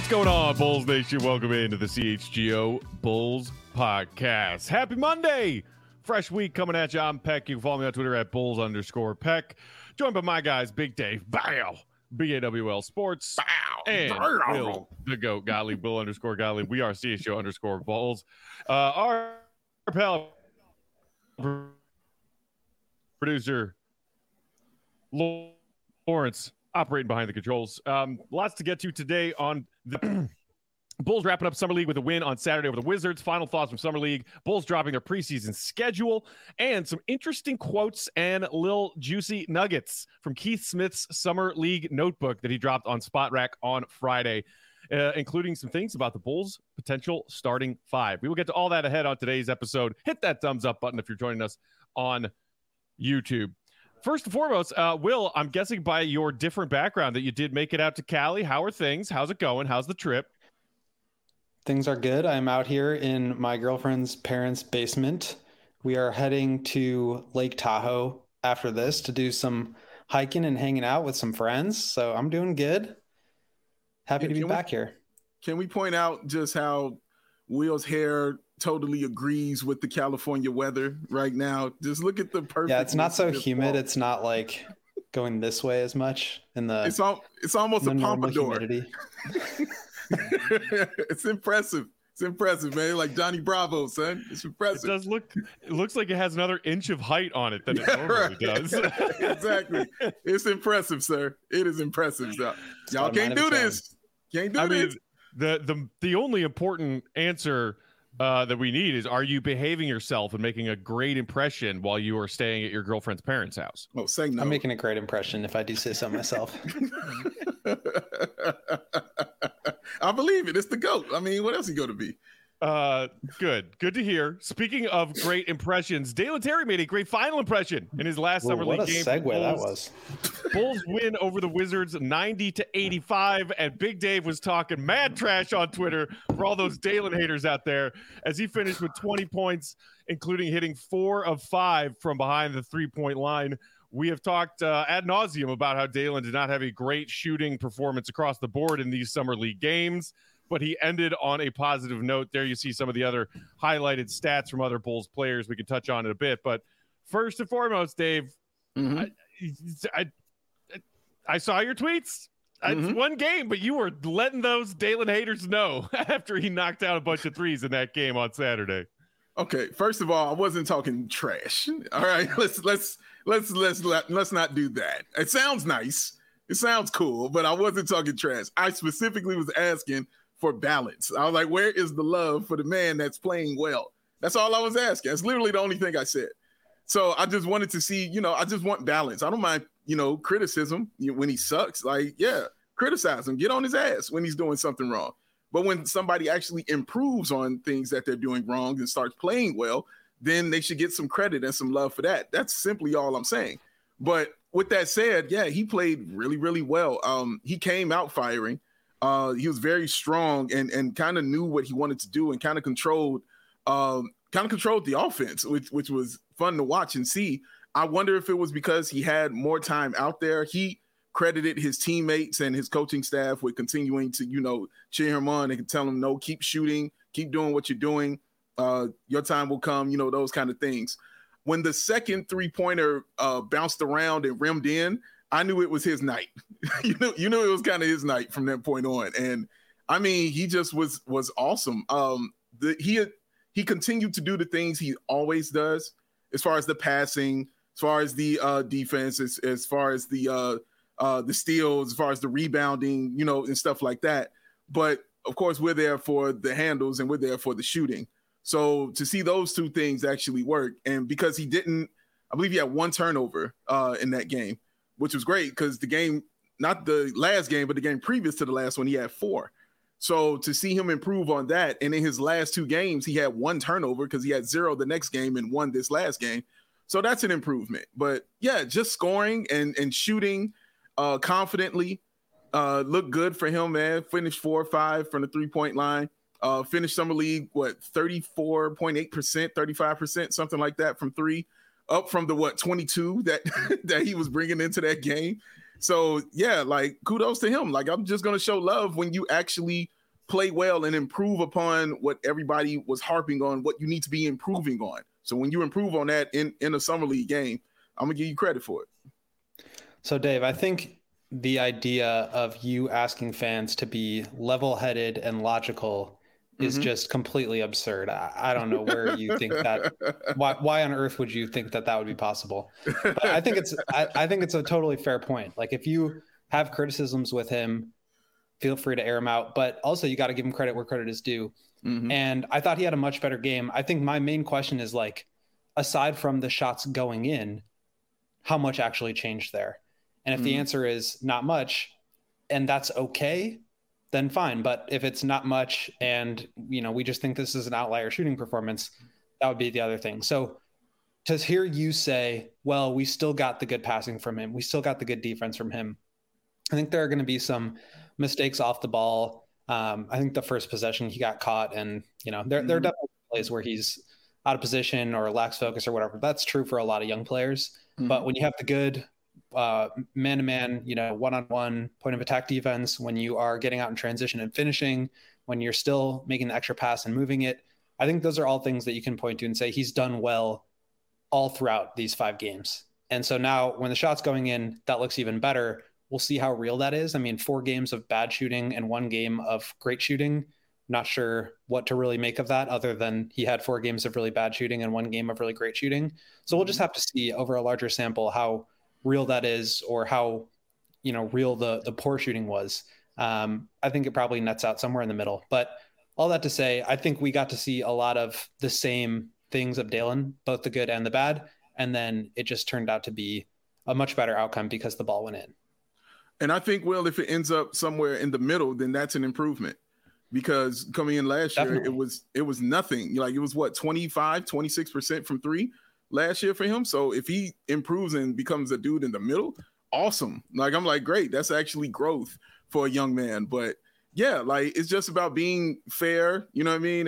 What's going on, Bulls Nation? Welcome into the CHGO Bulls Podcast. Happy Monday! Fresh week coming at you. I'm Peck. You can follow me on Twitter at Bulls_Peck. Joined by my guys, Big Dave, Bow, BAWL Sports, Bow, and Will, the GOAT, Gottlieb, Will_Gottlieb. We are CHGO_Bulls. Our pal producer, Lawrence, operating behind the controls. Lots to get to today on the Bulls wrapping up Summer League with a win on Saturday over the Wizards. Final thoughts from Summer League. Bulls dropping their preseason schedule and some interesting quotes and little juicy nuggets from Keith Smith's Summer League notebook that he dropped on Spot Rack on Friday, including some things about the Bulls' potential starting five. We will get to all that ahead on today's episode. Hit that thumbs up button if you're joining us on YouTube. First and foremost, Will, I'm guessing by your different background that you did make it out to Cali. How are things? How's it going? How's the trip? Things are good. I'm out here in my girlfriend's parents' basement. We are heading to Lake Tahoe after this to do some hiking and hanging out with some friends. So I'm doing good. Happy to be back here. Can we point out just how Will's hair totally agrees with the California weather right now? Just look at the perfect. Yeah, it's not so humid. Fall. It's not like going this way as much in the. It's almost a pompadour. It's impressive. It's impressive, man. Like Johnny Bravo, son. It's impressive. It looks like it has another inch of height on it than it normally does. Exactly. It's impressive, sir. It is impressive. So, y'all can't do this. Can't do this. The only important answer that we need is, are you behaving yourself and making a great impression while you are staying at your girlfriend's parents' house? Oh, say no. I'm making a great impression if I do say so myself. I believe it. It's the GOAT. I mean, what else he going to be? Good to hear. Speaking of great impressions, Dalen Terry made a great final impression in his last Summer League game. What a segue that was. Bulls win over the Wizards 90-85, and Big Dave was talking mad trash on Twitter for all those Dalen haters out there as he finished with 20 points, including hitting 4 of 5 from behind the three-point line. We have talked ad nauseum about how Dalen did not have a great shooting performance across the board in these Summer League games, but he ended on a positive note. There you see some of the other highlighted stats from other Bulls players we can touch on in a bit. But first and foremost, Dave, I saw your tweets. It's one game, but you were letting those Dalen haters know after he knocked out a bunch of threes in that game on Saturday. Okay, first of all, I wasn't talking trash. All right, let's not do that. It sounds nice. It sounds cool, but I wasn't talking trash. I specifically was asking for balance. I was like, where is the love for the man that's playing well? That's all I was asking. That's literally the only thing I said. So I just wanted to see, I just want balance. I don't mind, criticism when he sucks. Like, yeah, criticize him. Get on his ass when he's doing something wrong. But when somebody actually improves on things that they're doing wrong and starts playing well, then they should get some credit and some love for that. That's simply all I'm saying. But with that said, yeah, he played really, really well. He came out firing. He was very strong and kind of knew what he wanted to do and kind of controlled the offense, which was fun to watch and see. I wonder if it was because he had more time out there. He credited his teammates and his coaching staff with continuing to, cheer him on and tell him, no, keep shooting, keep doing what you're doing. Your time will come, those kind of things. When the second three-pointer bounced around and rimmed in, I knew it was his night. you knew it was kind of his night from that point on. And I mean, he just was awesome. He continued to do the things he always does, as far as the passing, as far as the defense, as far as the steals, as far as the rebounding, and stuff like that. But of course, we're there for the handles and we're there for the shooting. So to see those two things actually work, and because I believe he had 1 turnover in that game, which was great because the game, not the last game, but the game previous to the last one, he had 4. So to see him improve on that, and in his last 2 games, he had 1 turnover because he had 0 the next game and 1 this last game. So that's an improvement. But yeah, just scoring and shooting confidently looked good for him, man. Finished 4 or 5 from the 3-point line. Finished Summer League, 34.8%, 35%, something like that from 3, up from the 22 that he was bringing into that game. So yeah, like kudos to him. Like I'm just gonna show love when you actually play well and improve upon what everybody was harping on, what you need to be improving on. So when you improve on that in a summer league game, I'm gonna give you credit for it. So Dave, I think the idea of you asking fans to be level-headed and logical is just completely absurd. I don't know where you think that. Why on earth would you think that would be possible? But I think it's a totally fair point. Like if you have criticisms with him, feel free to air them out. But also you got to give him credit where credit is due. And I thought he had a much better game. I think my main question is like, aside from the shots going in, how much actually changed there? And if the answer is not much, and that's okay, then fine. But if it's not much and, we just think this is an outlier shooting performance, that would be the other thing. So to hear you say, well, we still got the good passing from him, we still got the good defense from him, I think there are going to be some mistakes off the ball. I think the first possession he got caught, and, there are definitely plays where he's out of position or lacks focus or whatever. That's true for a lot of young players. But when you have the good man-to-man, one-on-one point of attack defense, when you are getting out in transition and finishing, when you're still making the extra pass and moving it, I think those are all things that you can point to and say he's done well all throughout these 5 games. And so now when the shot's going in, that looks even better. We'll see how real that is. I mean, 4 games of bad shooting and 1 game of great shooting. Not sure what to really make of that other than he had 4 games of really bad shooting and 1 game of really great shooting. So we'll just have to see over a larger sample how real that is, or how, real the poor shooting was. I think it probably nets out somewhere in the middle. But all that to say, I think we got to see a lot of the same things of Dalen, both the good and the bad. And then it just turned out to be a much better outcome because the ball went in. And I think, Will, if it ends up somewhere in the middle, then that's an improvement. Because coming in last year, it was nothing. Like it was 26% from 3 last year for him. So if he improves and becomes a dude in the middle, awesome. Like I'm like, great. That's actually growth for a young man. But yeah, like it's just about being fair. You know what I mean?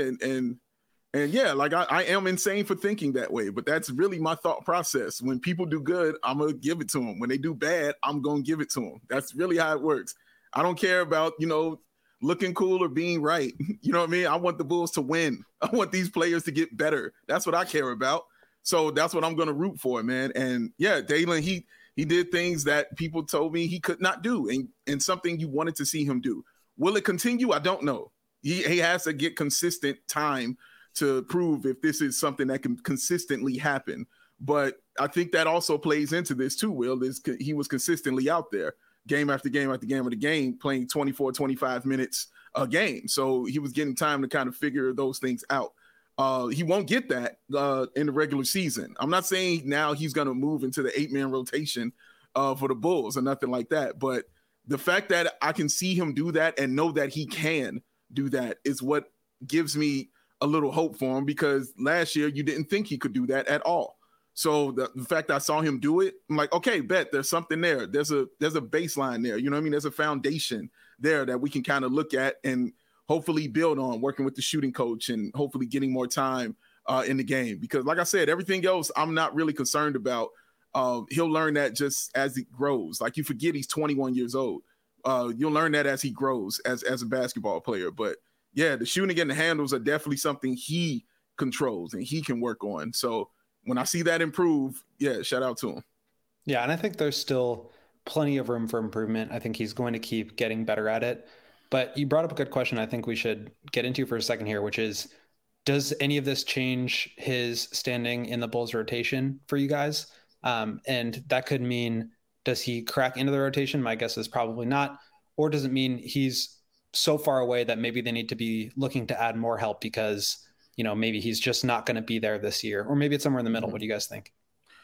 And yeah, like I am insane for thinking that way, but that's really my thought process. When people do good, I'm gonna give it to them. When they do bad, I'm gonna give it to them. That's really how it works. I don't care about looking cool or being right. You know what I mean? I want the Bulls to win. I want these players to get better. That's what I care about. So that's what I'm going to root for, man. And yeah, Dalen, he did things that people told me he could not do, and something you wanted to see him do. Will it continue? I don't know. He has to get consistent time to prove if this is something that can consistently happen. But I think that also plays into this too, Will, is he was consistently out there game after game after game after game, playing 24, 25 minutes a game. So he was getting time to kind of figure those things out. He won't get that in the regular season. I'm not saying now he's going to move into the 8-man rotation for the Bulls or nothing like that. But the fact that I can see him do that and know that he can do that is what gives me a little hope for him, because last year you didn't think he could do that at all. So the fact I saw him do it, I'm like, okay, bet there's something there. There's a baseline there. You know what I mean? There's a foundation there that we can kind of look at and hopefully build on, working with the shooting coach and hopefully getting more time in the game. Because like I said, everything else I'm not really concerned about. He'll learn that just as he grows. Like you forget he's 21 years old. You'll learn that as he grows as a basketball player. But yeah, the shooting and the handles are definitely something he controls and he can work on. So when I see that improve, yeah, shout out to him. Yeah, and I think there's still plenty of room for improvement. I think he's going to keep getting better at it. But you brought up a good question I think we should get into for a second here, which is, does any of this change his standing in the Bulls rotation for you guys? And that could mean, does he crack into the rotation? My guess is probably not. Or does it mean he's so far away that maybe they need to be looking to add more help because, maybe he's just not going to be there this year, or maybe it's somewhere in the middle. What do you guys think?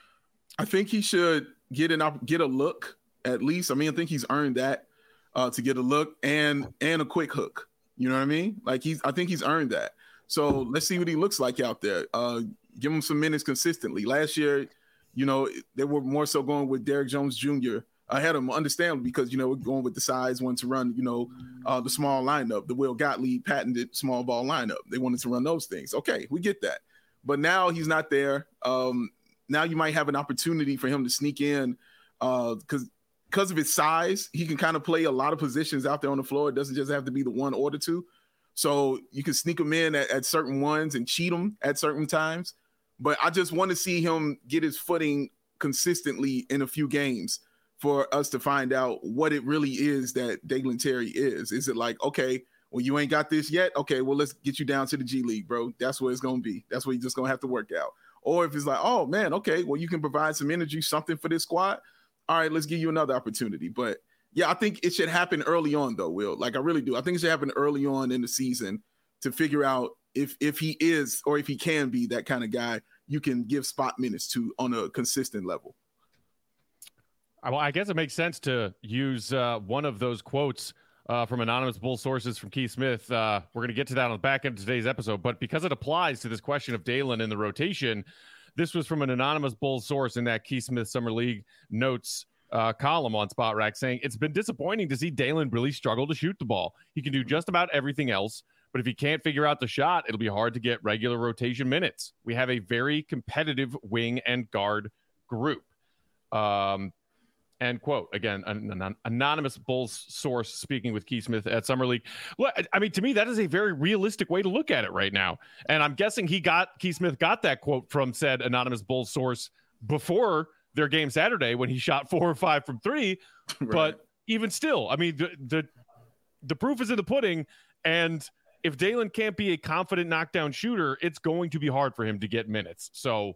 I think he should get a look at least. I mean, I think he's earned that to get a look and a quick hook. You know what I mean? Like I think he's earned that. So let's see what he looks like out there. Give him some minutes consistently. Last year, they were more so going with Derrick Jones Jr. ahead of him, understandably, because, we're going with the size, wanted to run, the small lineup, the Will Gottlieb patented small ball lineup. They wanted to run those things. Okay, we get that. But now he's not there. Now you might have an opportunity for him to sneak in because because of his size, he can kind of play a lot of positions out there on the floor. It doesn't just have to be the one or the two. So you can sneak him in at certain ones and cheat him at certain times. But I just want to see him get his footing consistently in a few games for us to find out what it really is that Dalen Terry is. Is it like, okay, well, you ain't got this yet? Okay, well, let's get you down to the G League, bro. That's what it's going to be. That's what you're just going to have to work out. Or if it's like, oh, man, okay, well, you can provide some energy, something for this squad. All right, let's give you another opportunity. But, yeah, I think it should happen early on, though, Will. Like, I really do. I think it should happen early on in the season to figure out if he is or if he can be that kind of guy you can give spot minutes to on a consistent level. Well, I guess it makes sense to use one of those quotes from anonymous Bull sources from Keith Smith. We're going to get to that on the back end of today's episode, but because it applies to this question of Dalen in the rotation, this was from an anonymous Bull source in that Keith Smith Summer League notes column on Spot Rack, saying it's been disappointing to see Dalen really struggle to shoot the ball. He can do just about everything else, but if he can't figure out the shot, it'll be hard to get regular rotation minutes. We have a very competitive wing and guard group. End quote. Again, an anonymous Bulls source speaking with Keith Smith at Summer League. Well, I mean, to me, that is a very realistic way to look at it right now. And I'm guessing Keith Smith got that quote from said anonymous Bulls source before their game Saturday when he shot 4 or 5 from 3. Right. But even still, I mean, the proof is in the pudding. And if Dalen can't be a confident knockdown shooter, it's going to be hard for him to get minutes. So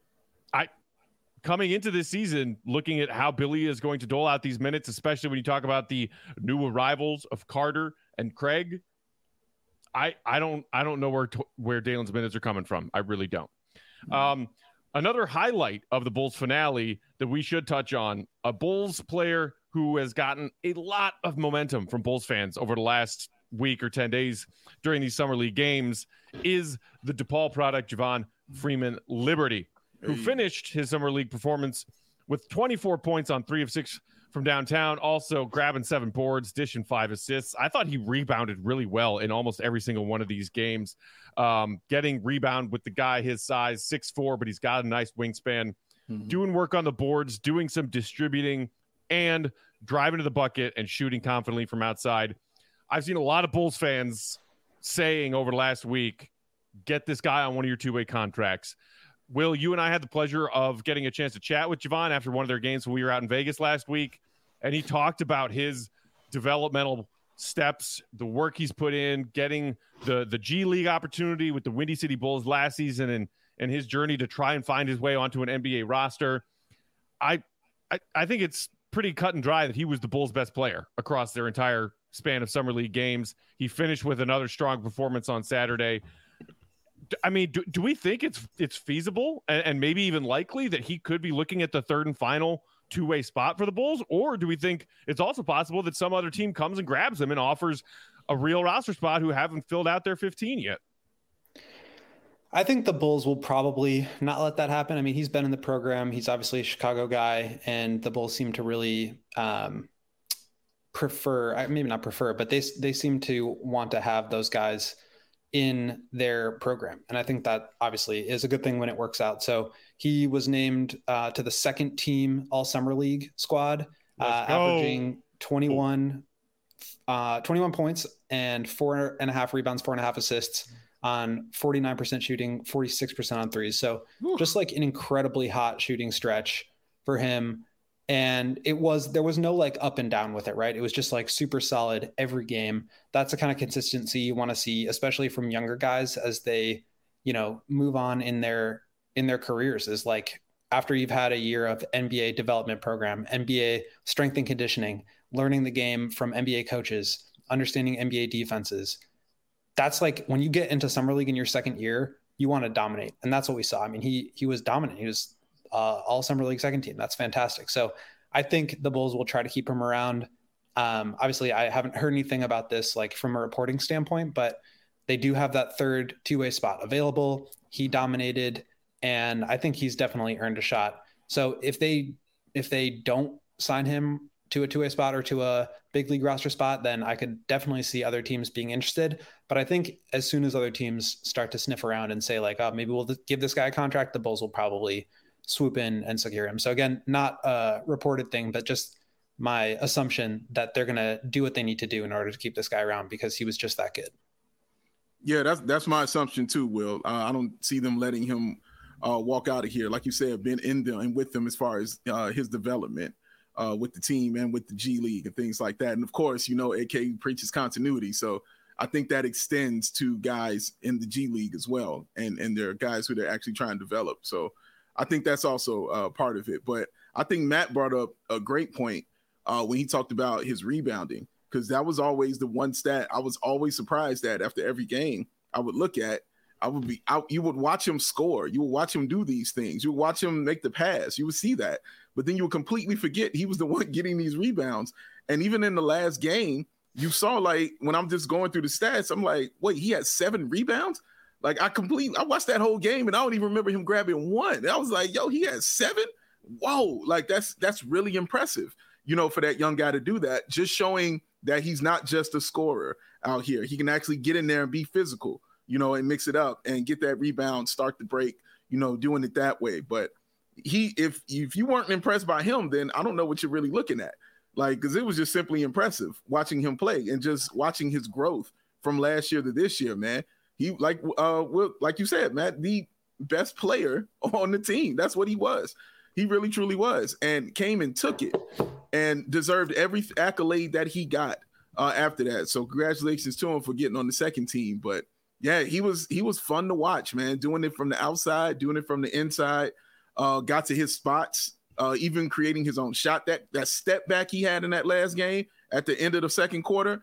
coming into this season, looking at how Billy is going to dole out these minutes, especially when you talk about the new arrivals of Carter and Craig, I don't know where Dalen's minutes are coming from. I really don't. Another highlight of the Bulls finale that we should touch on, a Bulls player who has gotten a lot of momentum from Bulls fans over the last week or 10 days during these Summer League games, is the DePaul product, Javon Freeman Liberty, who finished his Summer League performance with 24 points on 3 of 6 from downtown, also grabbing 7 boards, dishing 5 assists. I thought he rebounded really well in almost every single one of these games, getting rebound with the guy his size, 6'4", but he's got a nice wingspan, doing work on the boards, doing some distributing, and driving to the bucket and shooting confidently from outside. I've seen a lot of Bulls fans saying over the last week, get this guy on one of your two-way contracts. Will, you and I had the pleasure of getting a chance to chat with Javon after one of their games when we were out in Vegas last week, and he talked about his developmental steps, the work he's put in, getting the G League opportunity with the Windy City Bulls last season, and his journey to try and find his way onto an NBA roster. I think it's pretty cut and dry that he was the Bulls' best player across their entire span of Summer League games. He finished with another strong performance on Saturday. I mean, do we think it's feasible and maybe even likely that he could be looking at the third and final two-way spot for the Bulls? Or do we think it's also possible that some other team comes and grabs him and offers a real roster spot who haven't filled out their 15 yet? I think the Bulls will probably not let that happen. I mean, he's been in the program. He's obviously a Chicago guy, and the Bulls seem to really maybe not prefer, but they seem to want to have those guys in their program. And I think that obviously is a good thing when it works out. So he was named to the second team All Summer League squad, averaging 21 points and 4.5 rebounds, 4.5 assists on 49% shooting, 46% on threes. So just like an incredibly hot shooting stretch for him. And there was no like up and down with it, right? It was just like super solid every game. That's the kind of consistency you want to see, especially from younger guys as they, move on in their careers, is like after you've had a year of NBA development program, NBA strength and conditioning, learning the game from NBA coaches, understanding NBA defenses. That's like when you get into Summer League in your second year, you want to dominate. And that's what we saw. I mean, he was dominant. He was All Summer League second team. That's fantastic. So I think the Bulls will try to keep him around. Obviously, I haven't heard anything about this like from a reporting standpoint, but they do have that third two-way spot available. He dominated, and I think he's definitely earned a shot. So if they don't sign him to a two-way spot or to a big league roster spot, then I could definitely see other teams being interested. But I think as soon as other teams start to sniff around and say like, oh, maybe we'll give this guy a contract, the Bulls will probably swoop in and secure him. So again, not a reported thing, but just my assumption that they're going to do what they need to do in order to keep this guy around because he was just that good. Yeah, that's my assumption too, Will. I don't see them letting him walk out of here. Like you said, been in them and with them as far as his development with the team and with the G League and things like that. And of course, AK preaches continuity. So I think that extends to guys in the G League as well. And there are guys who they're actually trying to develop. So I think that's also part of it. But I think Matt brought up a great point when he talked about his rebounding, because that was always the one stat I was always surprised at after every game. I would look at, you would watch him score. You would watch him do these things. You would watch him make the pass. You would see that. But then you would completely forget he was the one getting these rebounds. And even in the last game, you saw, like, when I'm just going through the stats, I'm like, wait, he had 7 rebounds? Like, I watched that whole game and I don't even remember him grabbing one. And I was like, yo, he had 7? Whoa, like that's really impressive, for that young guy to do that, just showing that he's not just a scorer out here. He can actually get in there and be physical, and mix it up and get that rebound, start the break, doing it that way. But if you weren't impressed by him, then I don't know what you're really looking at. Like, because it was just simply impressive watching him play and just watching his growth from last year to this year, man. He, like you said, Matt, the best player on the team. That's what he was. He really, truly was, and came and took it and deserved every accolade that he got after that. So congratulations to him for getting on the second team. But yeah, he was fun to watch, man, doing it from the outside, doing it from the inside, got to his spots, even creating his own shot. That step back he had in that last game at the end of the second quarter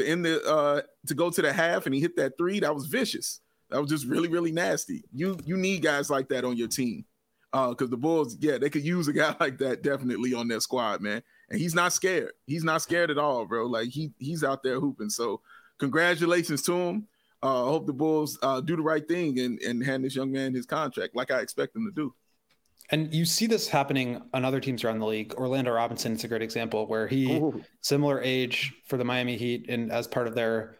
to go to the half, and he hit that 3. That was vicious. That was just really, really nasty. You need guys like that on your team. Because the Bulls, they could use a guy like that definitely on their squad, man. And he's not scared. He's not scared at all, bro. Like, he's out there hooping. So congratulations to him. I hope the Bulls do the right thing and hand this young man his contract like I expect them to do. And you see this happening on other teams around the league. Orlando Robinson is a great example where he, similar age for the Miami Heat, and as part of their,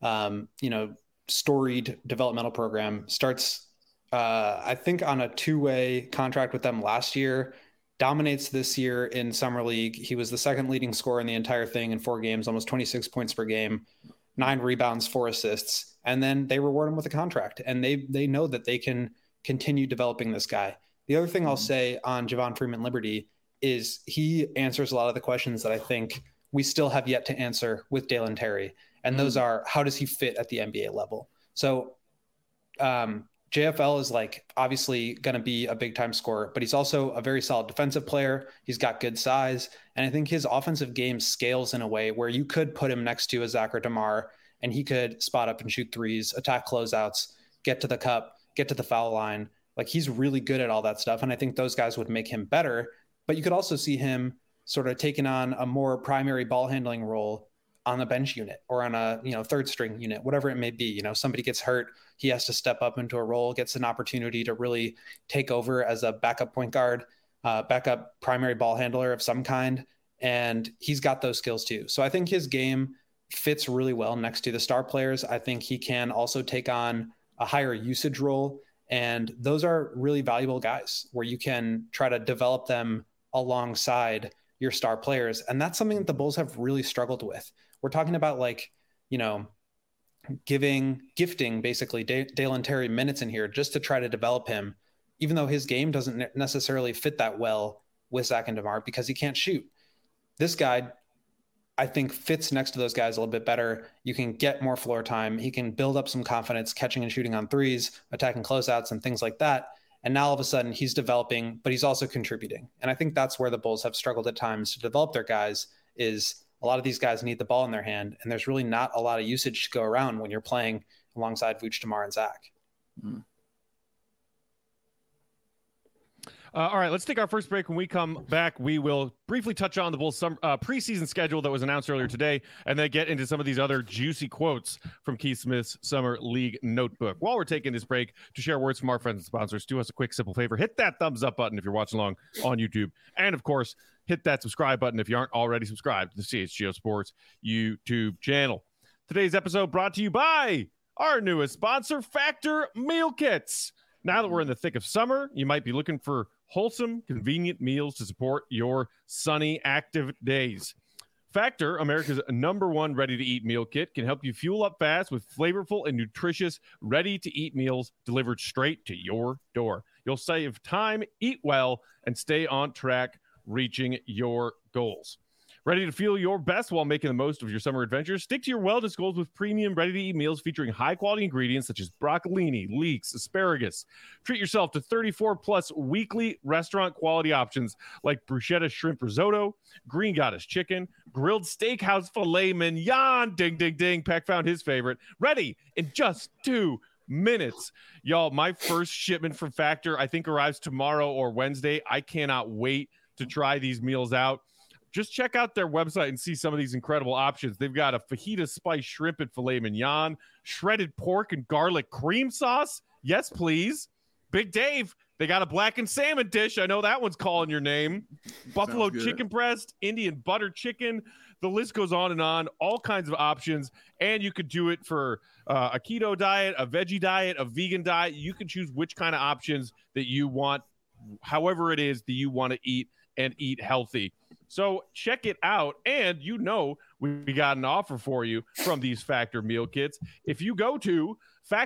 storied developmental program, starts I think on a 2-way contract with them last year, dominates this year in summer league. He was the second leading scorer in the entire thing in 4 games, almost 26 points per game, 9 rebounds, 4 assists. And then they reward him with a contract, and they know that they can continue developing this guy. The other thing I'll say on Javon Freeman Liberty is he answers a lot of the questions that I think we still have yet to answer with Dalen Terry. And those are, how does he fit at the NBA level? So, JFL is obviously going to be a big time scorer, but he's also a very solid defensive player. He's got good size. And I think his offensive game scales in a way where you could put him next to a Zach or DeMar, and he could spot up and shoot threes, attack closeouts, get to the cup, get to the foul line. Like, he's really good at all that stuff. And I think those guys would make him better, but you could also see him sort of taking on a more primary ball handling role on the bench unit or on a, third string unit, whatever it may be. Somebody gets hurt, he has to step up into a role, gets an opportunity to really take over as a backup point guard, backup primary ball handler of some kind. And he's got those skills too. So I think his game fits really well next to the star players. I think he can also take on a higher usage role. And those are really valuable guys where you can try to develop them alongside your star players. And that's something that the Bulls have really struggled with. We're talking about gifting basically Dalen Terry minutes in here just to try to develop him, even though his game doesn't necessarily fit that well with Zach and DeMar because he can't shoot. This guy, I think, fits next to those guys a little bit better. You can get more floor time. He can build up some confidence catching and shooting on threes, attacking closeouts and things like that. And now all of a sudden he's developing, but he's also contributing. And I think that's where the Bulls have struggled at times to develop their guys. Is a lot of these guys need the ball in their hand, and there's really not a lot of usage to go around when you're playing alongside Vooch, DeMar, and Zach. All right, let's take our first break. When we come back, we will briefly touch on the Bulls' preseason schedule that was announced earlier today, and then get into some of these other juicy quotes from Keith Smith's Summer League Notebook. While we're taking this break, to share words from our friends and sponsors, do us a quick, simple favor. Hit that thumbs up button if you're watching along on YouTube. And, of course, hit that subscribe button if you aren't already subscribed to the CHGO Sports YouTube channel. Today's episode brought to you by our newest sponsor, Factor Meal Kits. Now that we're in the thick of summer, you might be looking for wholesome, convenient meals to support your sunny, active days. Factor, America's #1 ready-to-eat meal kit, can help you fuel up fast with flavorful and nutritious ready-to-eat meals delivered straight to your door. You'll save time, eat well, and stay on track reaching your goals. Ready to feel your best while making the most of your summer adventures? Stick to your wellness goals with premium ready-to-eat meals featuring high-quality ingredients such as broccolini, leeks, asparagus. Treat yourself to 34-plus weekly restaurant-quality options like bruschetta shrimp risotto, green goddess chicken, grilled steakhouse filet mignon, ding, ding, ding. Peck found his favorite. Ready in just 2 minutes. Y'all, my first shipment from Factor, I think, arrives tomorrow or Wednesday. I cannot wait to try these meals out. Just check out their website and see some of these incredible options. They've got a fajita spice shrimp and filet mignon, shredded pork and garlic cream sauce. Yes, please. Big Dave, they got a blackened salmon dish. I know that one's calling your name. Buffalo chicken breast, Indian butter chicken. The list goes on and on. All kinds of options. And you could do it for a keto diet, a veggie diet, a vegan diet. You can choose which kind of options that you want, however it is that you want to eat and eat healthy. So check it out. And we got an offer for you from these Factor meal kits. If you go to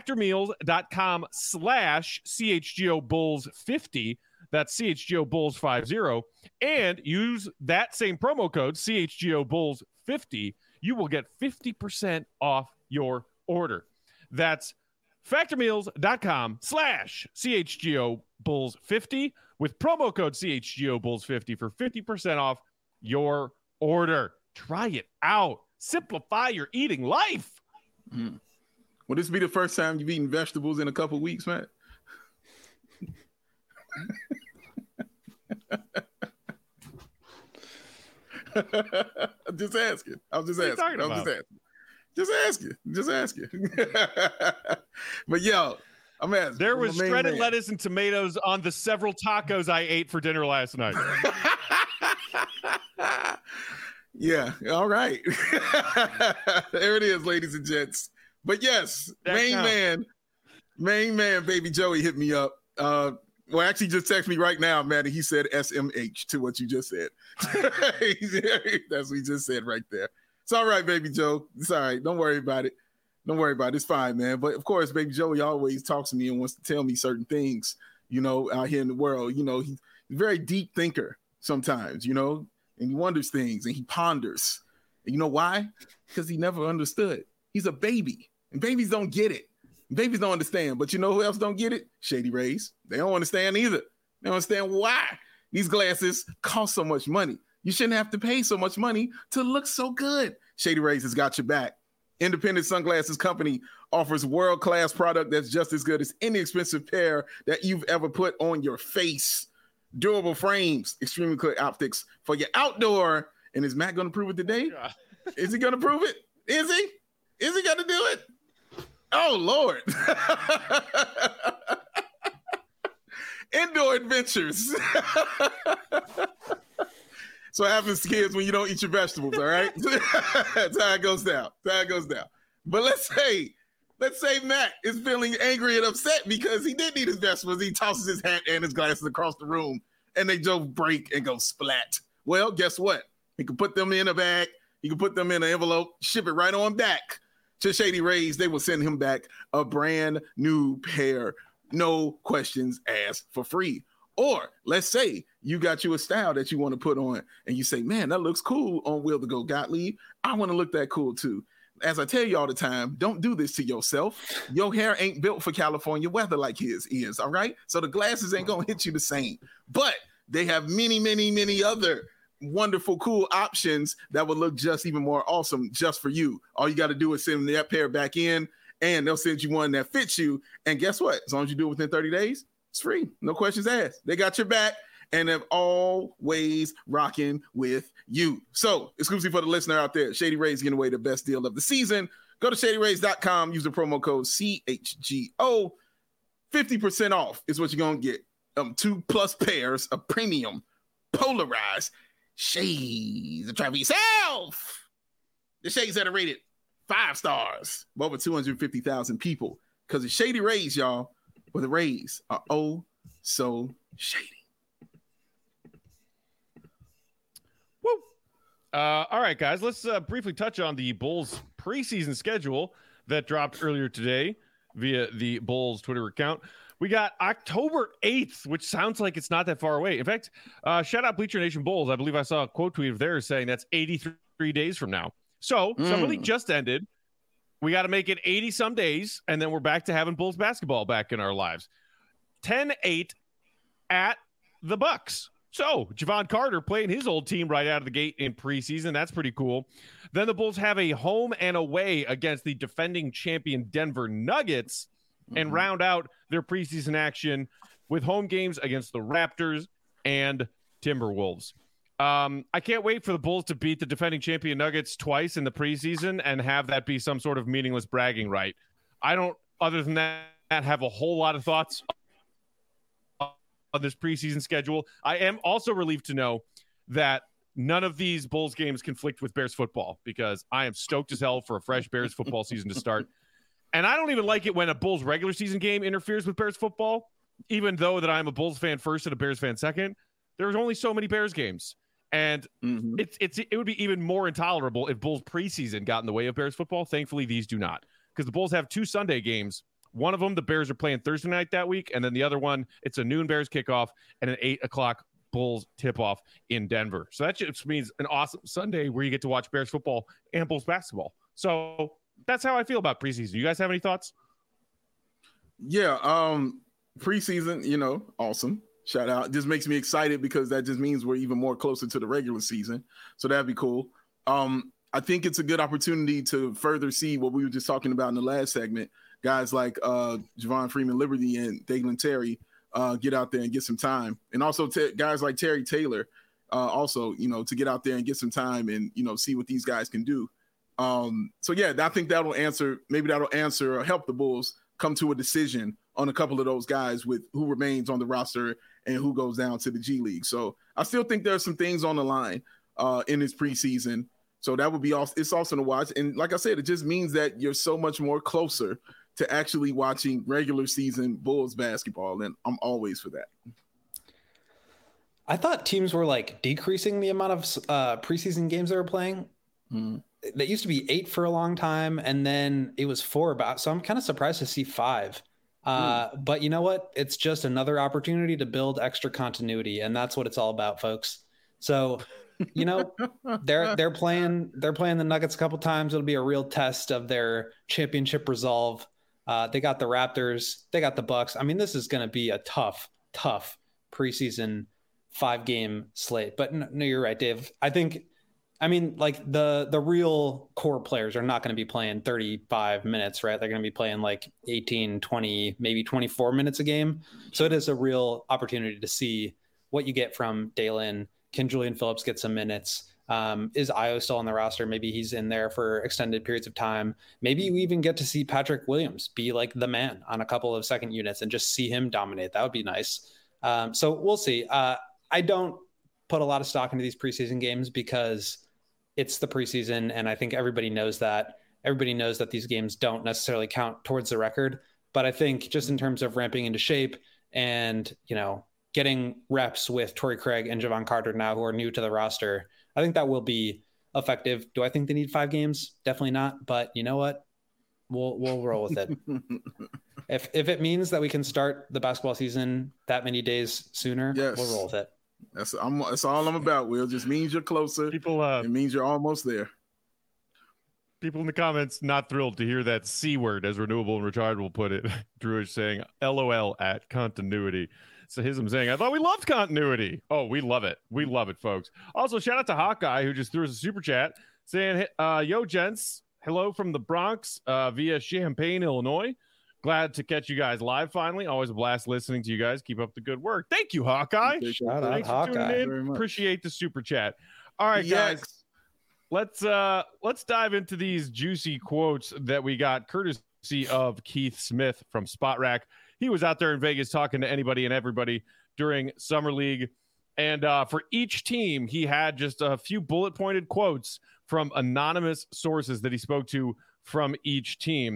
factormeals.com/CHGOBulls50, that's CHGOBulls50, and use that same promo code CHGOBulls50, you will get 50% off your order. That's factormeals.com/CHGOBulls50 with promo code CHGOBulls50 for 50% off your order. Try it out. Simplify your eating life. Will this be the first time you've eaten vegetables in a couple weeks, Matt? I'm just asking. Just asking. But yo, I'm asking. There was shredded lettuce and tomatoes on the several tacos I ate for dinner last night. Yeah, all right. There it is, ladies and gents. But yes, main man, baby Joey hit me up. Well, actually just text me right now, man, and he said SMH to what you just said. That's what he just said right there. It's all right, baby Joe. It's all right. Don't worry about it. It's fine, man. But of course, baby Joey always talks to me and wants to tell me certain things, out here in the world. He's a very deep thinker sometimes, and he wonders things and he ponders. And you know why? Because he never understood. He's a baby, and babies don't get it. Babies don't understand. But you know who else don't get it? Shady Rays. They don't understand either. They don't understand why these glasses cost so much money. You shouldn't have to pay so much money to look so good. Shady Rays has got your back. Independent Sunglasses Company offers world-class product that's just as good as any expensive pair that you've ever put on your face. Durable frames, extremely clear optics for your outdoor. And is Matt going to prove it today? Yeah. Is he going to prove it? Is he? Is he going to do it? Oh, Lord. Indoor adventures. So what happens to kids when you don't eat your vegetables, all right? That's how it goes down. But let's say Matt is feeling angry and upset because he didn't eat his vegetables. He tosses his hat and his glasses across the room, and they just break and go splat. Well, guess what? He can put them in a bag. He can put them in an envelope, ship it right on back to Shady Rays. They will send him back a brand new pair, no questions asked, for free. Or let's say you got you a style that you want to put on and you say, man, that looks cool on Will to Go Gottlieb. I want to look that cool too. As I tell you all the time, don't do this to yourself. Your hair ain't built for California weather like his is, all right? So the glasses ain't going to hit you the same. But they have many, many, many other wonderful, cool options that will look just even more awesome just for you. All you got to do is send that pair back in, and they'll send you one that fits you. And guess what? As long as you do it within 30 days, it's free. No questions asked. They got your back, and they're always rocking with you. So, exclusive for the listener out there, Shady Rays giving away the best deal of the season. Go to shadyrays.com, use the promo code CHGO. 50% off is what you're going to get. 2+ pairs of premium polarized shades to try for yourself. The shades that are rated 5 stars by over 250,000 people. Because it's Shady Rays, y'all. Well, the Rays are oh so shady. Woo. All right, guys, let's briefly touch on the Bulls preseason schedule that dropped earlier today via the Bulls Twitter account. We got October 8th, which sounds like it's not that far away. In fact, shout out Bleacher Nation Bulls. I believe I saw a quote tweet of theirs saying that's 83 days from now. So Summer League just ended. We got to make it 80 some days, and then we're back to having Bulls basketball back in our lives. 10-8 at the Bucks. So Javon Carter playing his old team right out of the gate in preseason. That's pretty cool. Then the Bulls have a home and away against the defending champion Denver Nuggets and round out their preseason action with home games against the Raptors and Timberwolves. I can't wait for the Bulls to beat the defending champion Nuggets twice in the preseason and have that be some sort of meaningless bragging right. I don't, other than that, have a whole lot of thoughts on this preseason schedule. I am also relieved to know that none of these Bulls games conflict with Bears football, because I am stoked as hell for a fresh Bears football season to start. And I don't even like it when a Bulls regular season game interferes with Bears football, even though that I'm a Bulls fan first and a Bears fan second. There's only so many Bears games. And it would be even more intolerable if Bulls preseason got in the way of Bears football. Thankfully, these do not, because the Bulls have 2 Sunday games. One of them, the Bears are playing Thursday night that week. And then the other one, it's a noon Bears kickoff and an 8 o'clock Bulls tip-off in Denver. So that just means an awesome Sunday where you get to watch Bears football and Bulls basketball. So that's how I feel about preseason. You guys have any thoughts? Yeah, preseason, awesome. Shout out. Just makes me excited because that just means we're even more closer to the regular season. So that'd be cool. I think it's a good opportunity to further see what we were just talking about in the last segment. Guys like Javon Freeman-Liberty and Dalen Terry get out there and get some time. And also guys like Terry Taylor also, to get out there and get some time and, see what these guys can do. So, yeah, I think that'll answer or help the Bulls come to a decision on a couple of those guys with who remains on the roster and who goes down to the G League. So I still think there's some things on the line in this preseason. So that would be awesome. It's awesome to watch. And like I said, it just means that you're so much more closer to actually watching regular season Bulls basketball. And I'm always for that. I thought teams were like decreasing the amount of preseason games they were playing. That used to be 8 for a long time, and then it was 4 about. So I'm kind of surprised to see 5. But you know what? It's just another opportunity to build extra continuity, and that's what it's all about, folks. So, they're playing the Nuggets a couple times. It'll be a real test of their championship resolve. They got the Raptors, they got the Bucks. I mean, this is going to be a tough preseason 5-game slate. But no, you're right, Dave. Like the real core players are not going to be playing 35 minutes, right? They're going to be playing like 18, 20, maybe 24 minutes a game. So it is a real opportunity to see what you get from Dalen. Can Julian Phillips get some minutes? Is Ayo still on the roster? Maybe he's in there for extended periods of time. Maybe we even get to see Patrick Williams be like the man on a couple of second units and just see him dominate. That would be nice. So we'll see. I don't put a lot of stock into these preseason games because it's the preseason, and I think everybody knows that. Everybody knows that these games don't necessarily count towards the record. But I think just in terms of ramping into shape and, getting reps with Torrey Craig and Javon Carter now, who are new to the roster, I think that will be effective. Do I think they need 5 games? Definitely not. But you know what? We'll roll with it. If it means that we can start the basketball season that many days sooner, yes, we'll roll with it. That's all I'm about, Will. Just means you're closer. It means you're almost there. People in the comments not thrilled to hear that C word, as Renewable and Rechargeable put it. Drew is saying, LOL at continuity. Sahism saying, I thought we loved continuity. Oh, we love it. We love it, folks. Also, shout out to Hawkeye, who just threw us a super chat saying, yo, gents, hello from the Bronx via Champaign, Illinois. Glad to catch you guys live finally. Always a blast listening to you guys. Keep up the good work. Thank you, Hawkeye. Shout out, Hawkeye. Appreciate the super chat. All right, guys. Let's dive into these juicy quotes that we got courtesy of Keith Smith from Spot Rack. He was out there in Vegas talking to anybody and everybody during Summer League. And for each team, he had just a few bullet pointed quotes from anonymous sources that he spoke to from each team.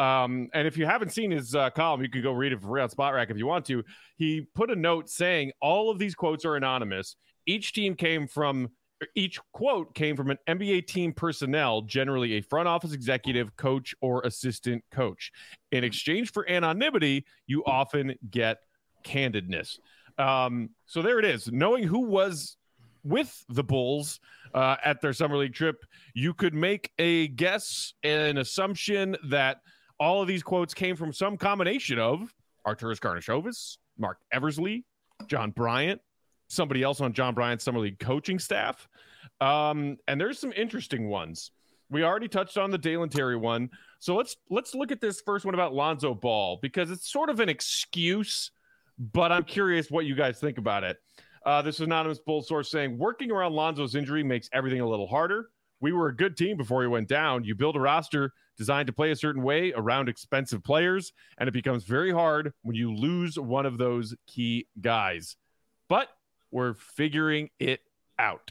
And if you haven't seen his column, you can go read it for free on Spot Rack if you want to. He put a note saying all of these quotes are anonymous. Each quote came from an NBA team personnel, generally a front office executive, coach, or assistant coach. In exchange for anonymity, you often get candidness. So there it is. Knowing who was with the Bulls at their summer league trip, you could make a guess, an assumption that all of these quotes came from some combination of Arturas Karnisovas, Mark Eversley, John Bryant, somebody else on John Bryant's summer league coaching staff. And there's some interesting ones. We already touched on the Dalen Terry one. So let's look at this first one about Lonzo Ball, because it's sort of an excuse, but I'm curious what you guys think about it. This anonymous Bulls source saying, working around Lonzo's injury makes everything a little harder. We were a good team before he went down. You build a roster designed to play a certain way around expensive players, and it becomes very hard when you lose one of those key guys. But we're figuring it out.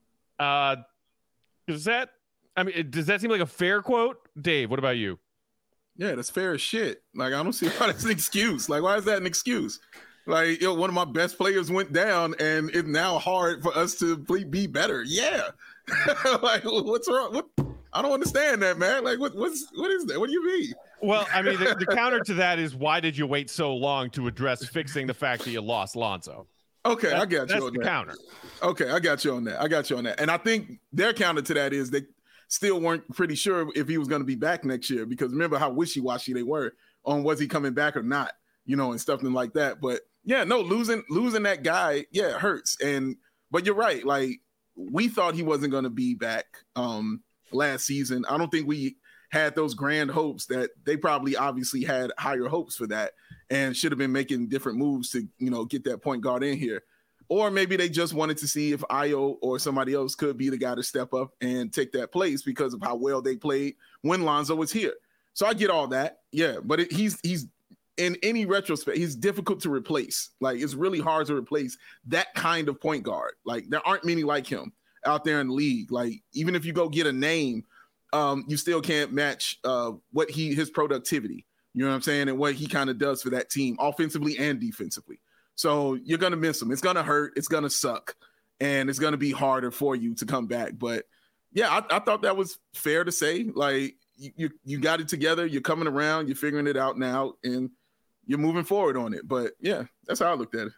Does that seem like a fair quote? Dave, what about you? Yeah, that's fair as shit. Like, I don't see why that's an excuse. Like, why is that an excuse? Like, one of my best players went down, and it's now hard for us to be better. Yeah. Like, what's wrong? What? I don't understand that, man. Like, what is that? What do you mean? Well, I mean, the counter to that is, why did you wait so long to address fixing the fact that you lost Lonzo? Okay, I got you on that. That's the counter. Okay, I got you on that. And I think their counter to that is they still weren't pretty sure if he was going to be back next year, because remember how wishy-washy they were on was he coming back or not, and stuff like that. But yeah, no, losing that guy, yeah, it hurts. But you're right. Like, we thought he wasn't going to be back last season. I don't think we had those grand hopes that they probably obviously had higher hopes for that and should have been making different moves to, get that point guard in here. Or maybe they just wanted to see if Ayo or somebody else could be the guy to step up and take that place because of how well they played when Lonzo was here. So I get all that. Yeah, but he's in any retrospect, he's difficult to replace. Like, it's really hard to replace that kind of point guard. Like, there aren't many like him out there in the league. Like, even if you go get a name, you still can't match his productivity. You know what I'm saying? And what he kind of does for that team offensively and defensively. So you're going to miss him. It's going to hurt. It's going to suck. And it's going to be harder for you to come back. But yeah, I thought that was fair to say. Like, you got it together. You're coming around. You're figuring it out now. And you're moving forward on it. But yeah, that's how I looked at it.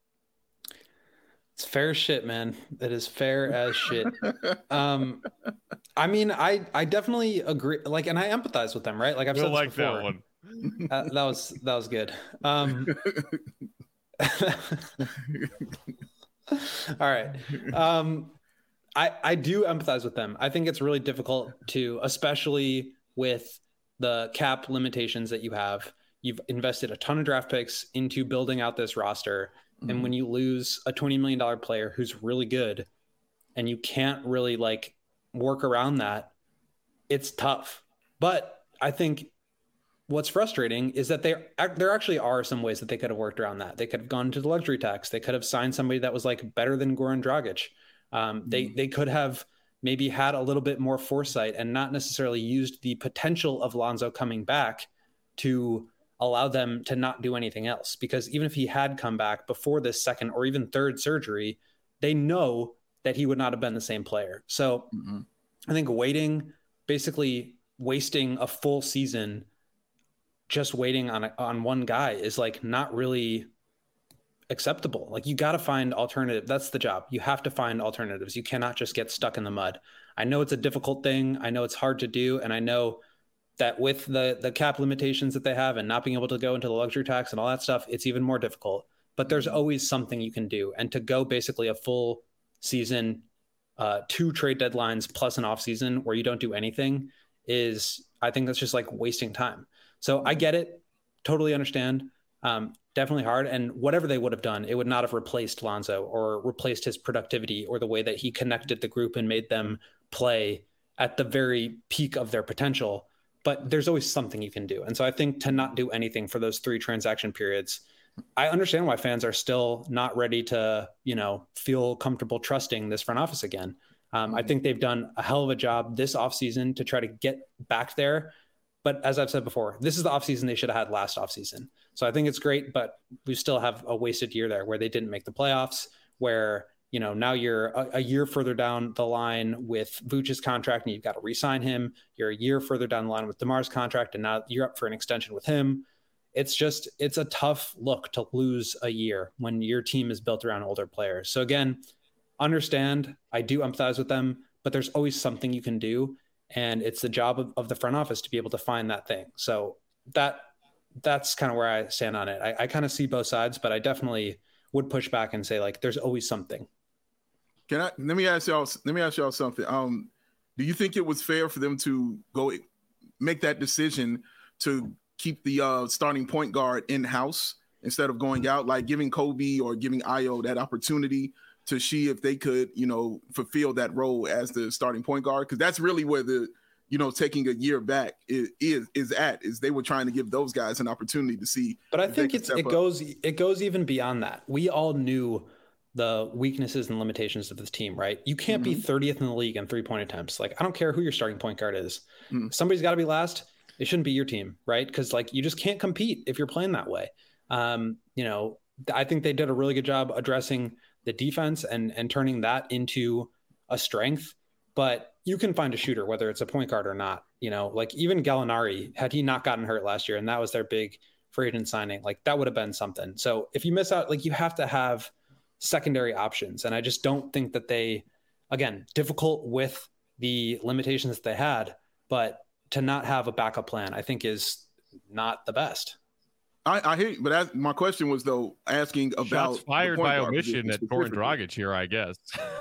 It's fair shit, man. It is fair as shit. I mean, I definitely agree. Like, and I empathize with them, right? Like, I've said this before. That one. That was good. All right. I do empathize with them. I think it's really difficult to, especially with the cap limitations that you have. You've invested a ton of draft picks into building out this roster. Mm-hmm. And when you lose a $20 million player who's really good and you can't really like work around that, it's tough. But I think what's frustrating is that there actually are some ways that they could have worked around that. They could have gone to the luxury tax. They could have signed somebody that was like better than Goran Dragic. They could have maybe had a little bit more foresight and not necessarily used the potential of Lonzo coming back to allow them to not do anything else. Because even if he had come back before this second or even third surgery, they know that he would not have been the same player. So I think basically wasting a full season just waiting on one guy is like not really acceptable. Like, you got to find alternative. That's the job. You have to find alternatives. You cannot just get stuck in the mud. I know it's a difficult thing. I know it's hard to do. And I know that with the cap limitations that they have and not being able to go into the luxury tax and all that stuff, it's even more difficult. But there's always something you can do. And to go basically a full season, 2 trade deadlines plus an off season where you don't do anything I think that's just like wasting time. So I get it. Totally understand. Definitely hard. And whatever they would have done, it would not have replaced Lonzo or replaced his productivity or the way that he connected the group and made them play at the very peak of their potential. But there's always something you can do. And so I think to not do anything for those 3 transaction periods, I understand why fans are still not ready to, feel comfortable trusting this front office again. I think they've done a hell of a job this offseason to try to get back there. But as I've said before, this is the offseason they should have had last offseason. So I think it's great, but we still have a wasted year there where they didn't make the playoffs, where, now you're a year further down the line with Vooch's contract and you've got to re-sign him. You're a year further down the line with DeMar's contract, and now you're up for an extension with him. It's a tough look to lose a year when your team is built around older players. So again, understand, I do empathize with them, but there's always something you can do. And it's the job of the front office to be able to find that thing. So that's kind of where I stand on it. I kind of see both sides, but I definitely would push back and say, like, there's always something. Let me ask y'all something. Do you think it was fair for them to go make that decision to keep the starting point guard in-house instead of going out, like giving Kobe or giving Ayo that opportunity to see if they could, fulfill that role as the starting point guard? Because that's really where the, taking a year back is they were trying to give those guys an opportunity to see. But I think it goes even beyond that. We all knew the weaknesses and limitations of this team, right? You can't be 30th in the league in 3-point attempts. Like, I don't care who your starting point guard is. Somebody's got to be last. It shouldn't be your team, right? Because you just can't compete if you're playing that way. I think they did a really good job addressing the defense and turning that into a strength. But you can find a shooter, whether it's a point guard or not. Even Gallinari, had he not gotten hurt last year, and that was their big free agent signing, that would have been something. So if you miss out, you have to have secondary options. And I just don't think that they, again, difficult with the limitations that they had, but to not have a backup plan, I think is not the best. I hear you, but my question was, though, asking about shots fired by omission at Goran Dragic here, I guess.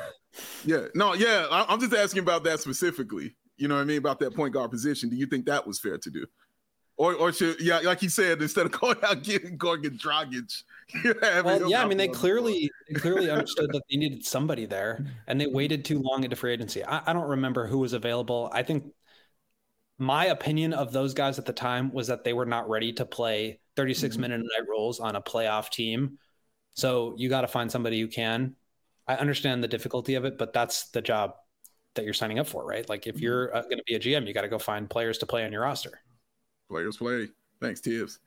I'm just asking about that specifically. You know what I mean? About that point guard position. Do you think that was fair to do? Or should, like you said, instead of going out getting Dragic, they clearly understood that they needed somebody there, and they waited too long into free agency. I don't remember who was available. I think my opinion of those guys at the time was that they were not ready to play 36-minute night roles on a playoff team. So you got to find somebody who can. I understand the difficulty of it, but that's the job that you're signing up for, right? Like, if you're going to be a GM, you got to go find players to play on your roster. Players play. Thanks, Tibbs.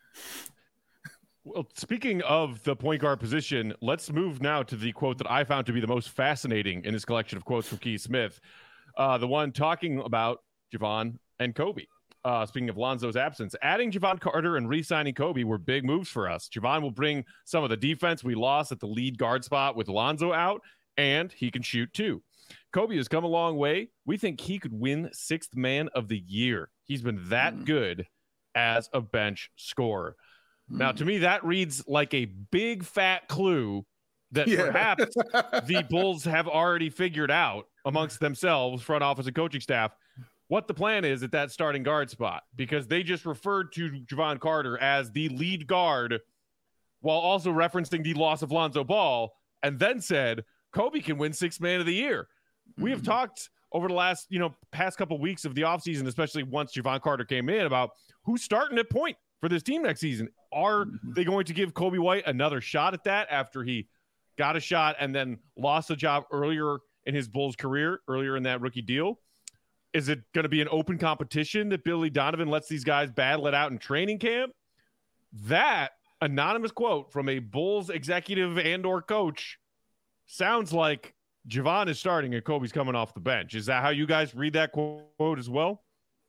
Well, speaking of the point guard position, let's move now to the quote that I found to be the most fascinating in this collection of quotes from Keith Smith. The one talking about Jevon and Kobe. Speaking of Lonzo's absence, adding Jevon Carter and re-signing Kobe were big moves for us. Jevon will bring some of the defense we lost at the lead guard spot with Lonzo out, and he can shoot too. Kobe has come a long way. We think he could win Sixth Man of the Year. He's been that good as a bench scorer. Now, to me, that reads like a big fat clue that perhaps the Bulls have already figured out amongst themselves, front office and coaching staff, what the plan is at that starting guard spot, because they just referred to Jevon Carter as the lead guard while also referencing the loss of Lonzo Ball, and then said Kobe can win Sixth Man of the Year. We have talked over the last, past couple of weeks of the offseason, especially once Jevon Carter came in, about who's starting at point for this team next season. Are they going to give Kobe White another shot at that after he got a shot and then lost a job earlier in his Bulls career, earlier in that rookie deal? Is it going to be an open competition that Billy Donovan lets these guys battle it out in training camp? That anonymous quote from a Bulls executive and or coach sounds like Jevon is starting and Kobe's coming off the bench. Is that how you guys read that quote as well?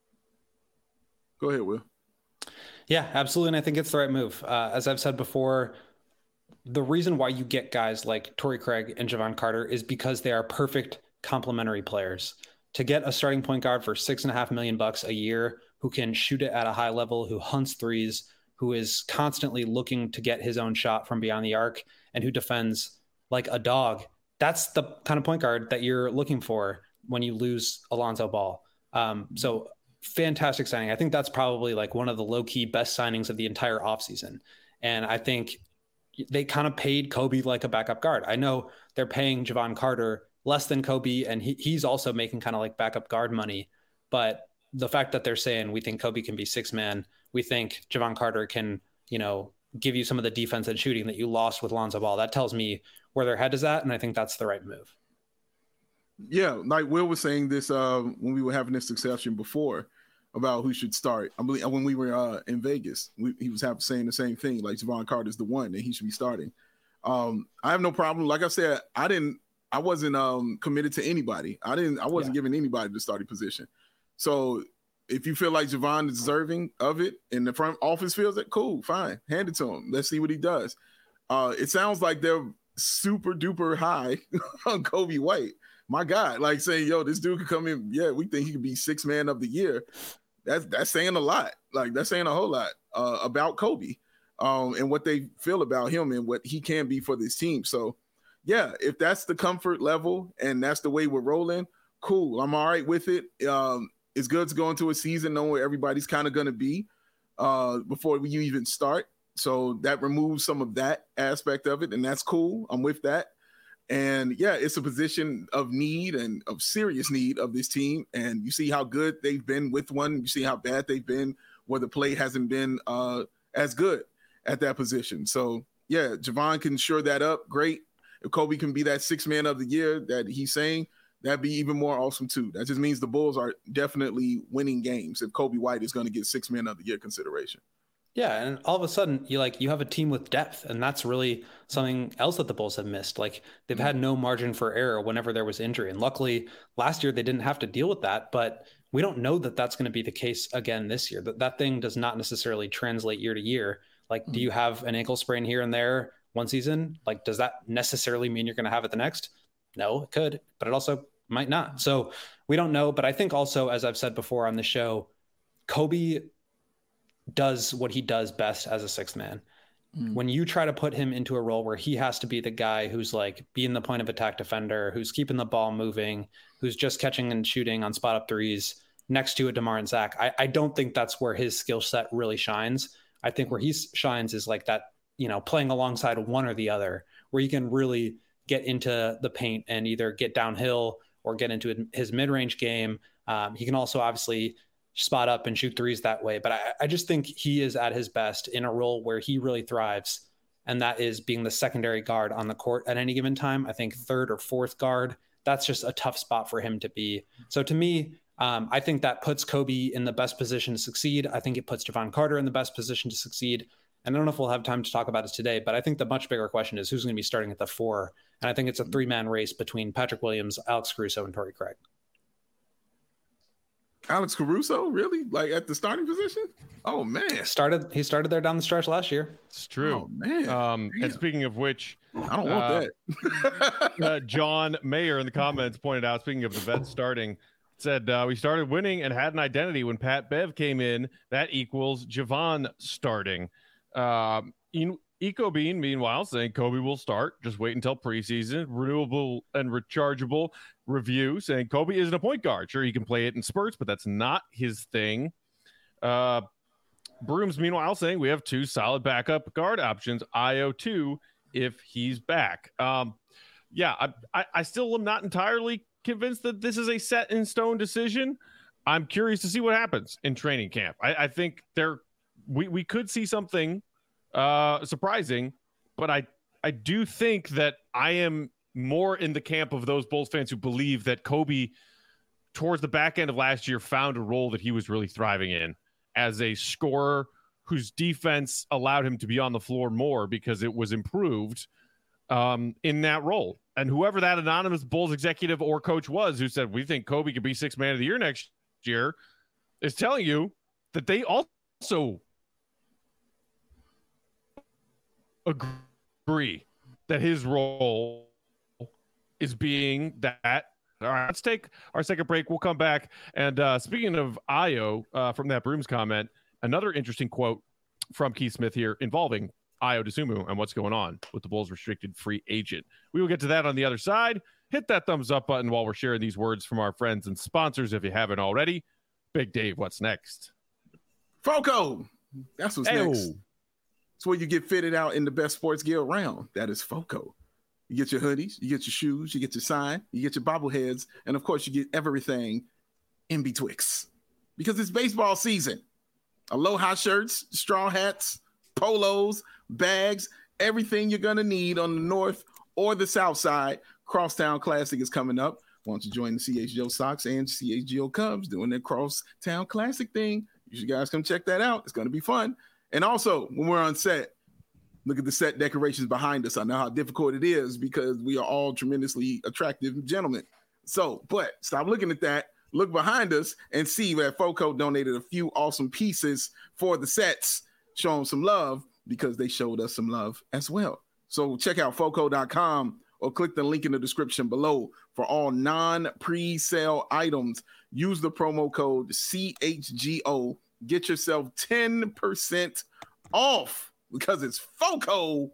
Go ahead, Will. Yeah, absolutely. And I think it's the right move. As I've said before, the reason why you get guys like Torrey Craig and Jevon Carter is because they are perfect complementary players. To get a starting point guard for $6.5 million a year, who can shoot it at a high level, who hunts threes, who is constantly looking to get his own shot from beyond the arc, and who defends like a dog. That's the kind of point guard that you're looking for when you lose Alonzo Ball. So fantastic signing. I think that's probably like one of the low-key best signings of the entire offseason. And I think they kind of paid Kobe like a backup guard. I know they're paying Jevon Carter less than Kobe, and he's also making kind of like backup guard money. But the fact that they're saying we think Kobe can be six man, we think Jevon Carter can, give you some of the defense and shooting that you lost with Lonzo Ball. That tells me where their head is at, and I think that's the right move. Yeah, like Will was saying this when we were having this discussion before. about who should start. I believe when we were in Vegas, he was saying the same thing, like Jevon Carter's the one that he should be starting. I have no problem. Like I said, I wasn't committed to anybody. I wasn't giving anybody the starting position. So if you feel like Jevon is deserving of it and the front office feels it, cool, fine. Hand it to him. Let's see what he does. It sounds like they're super duper high on Coby White. My God, like saying, yo, this dude could come in. Yeah, we think he could be 6th man of the year. That's saying a lot. Like that's saying a whole lot about Coby and what they feel about him and what he can be for this team. So yeah, if that's the comfort level and that's the way we're rolling, cool. I'm all right with it. It's good to go into a season knowing where everybody's kind of going to be before you even start. So that removes some of that aspect of it, and that's cool. I'm with that. And yeah, it's a position of need and of serious need of this team. And you see how good they've been with one. You see how bad they've been where the play hasn't been as good at that position. So yeah, Jevon can shore that up. Great. If Coby can be that 6th man of the year that he's saying, that'd be even more awesome too. That just means the Bulls are definitely winning games if Coby White is going to get 6th man of the year consideration. Yeah, and all of a sudden you have a team with depth, and that's really something else that the Bulls have missed. Like they've had no margin for error whenever there was injury, and luckily last year they didn't have to deal with that. But we don't know that that's going to be the case again this year. That thing does not necessarily translate year to year. Like, do you have an ankle sprain here and there one season? Like, does that necessarily mean you're going to have it the next? No, it could, but it also might not. So we don't know. But I think also, as I've said before on the show, Coby does what he does best as a 6th man. When you try to put him into a role where he has to be the guy who's like being the point of attack defender, who's keeping the ball moving, who's just catching and shooting on spot up threes next to a DeMar and Zach, I don't think that's where his skill set really shines. I think where he shines is like that, playing alongside one or the other, where you can really get into the paint and either get downhill or get into his mid-range game. He can also obviously spot up and shoot threes that way. But I just think he is at his best in a role where he really thrives. And that is being the secondary guard on the court at any given time. I think 3rd or 4th guard, that's just a tough spot for him to be. So to me, I think that puts Coby in the best position to succeed. I think it puts Jevon Carter in the best position to succeed. And I don't know if we'll have time to talk about it today, but I think the much bigger question is who's going to be starting at the 4. And I think it's a 3-man race between Patrick Williams, Alex Caruso, and Torrey Craig. Alex Caruso, really? Like at the starting position? Oh man, he started there down the stretch last year. It's true. Oh man. And speaking of which, I don't want that. John Mayer in the comments pointed out, speaking of the vets starting, said we started winning and had an identity when Pat Bev came in. That equals Jevon starting. Eco Bean, meanwhile, saying Coby will start. Just wait until preseason. Renewable and rechargeable review saying Coby isn't a point guard. Sure, he can play it in spurts, but that's not his thing. Brooms, meanwhile, saying we have 2 solid backup guard options. Ayo 2 if he's back. Yeah, I still am not entirely convinced that this is a set in stone decision. I'm curious to see what happens in training camp. I think we could see something surprising, but I do think that I am more in the camp of those Bulls fans who believe that Coby, towards the back end of last year, found a role that he was really thriving in as a scorer whose defense allowed him to be on the floor more because it was improved in that role. And whoever that anonymous Bulls executive or coach was who said, we think Coby could be 6th man of the year next year, is telling you that they also agree that his role is being that. All right, let's take our second break. We'll come back. And speaking of Ayo, from that Brooms comment, another interesting quote from Keith Smith here involving Ayo Dosunmu and what's going on with the Bulls restricted free agent. We will get to that on the other side. Hit that thumbs up button while we're sharing these words from our friends and sponsors if you haven't already. Big Dave, what's next? FOCO. That's what's next. It's where you get fitted out in the best sports gear around. That is FOCO. You get your hoodies, you get your shoes, you get your sign, you get your bobbleheads, and of course you get everything in betwixt. Because it's baseball season. Aloha shirts, straw hats, polos, bags, everything you're going to need on the north or the south side. Crosstown Classic is coming up. why don't you join the CHGO Sox and CHGO Cubs doing their Crosstown Classic thing? You should guys come check that out. It's going to be fun. And also, when we're on set, look at the set decorations behind us. I know how difficult it is because we are all tremendously attractive gentlemen. So, but stop looking at that. Look behind us and see that FOCO donated a few awesome pieces for the sets. Show them some love because they showed us some love as well. So check out FOCO.com or click the link in the description below for all non-pre-sale items. Use the promo code CHGO. Get yourself 10% off because it's FOCO.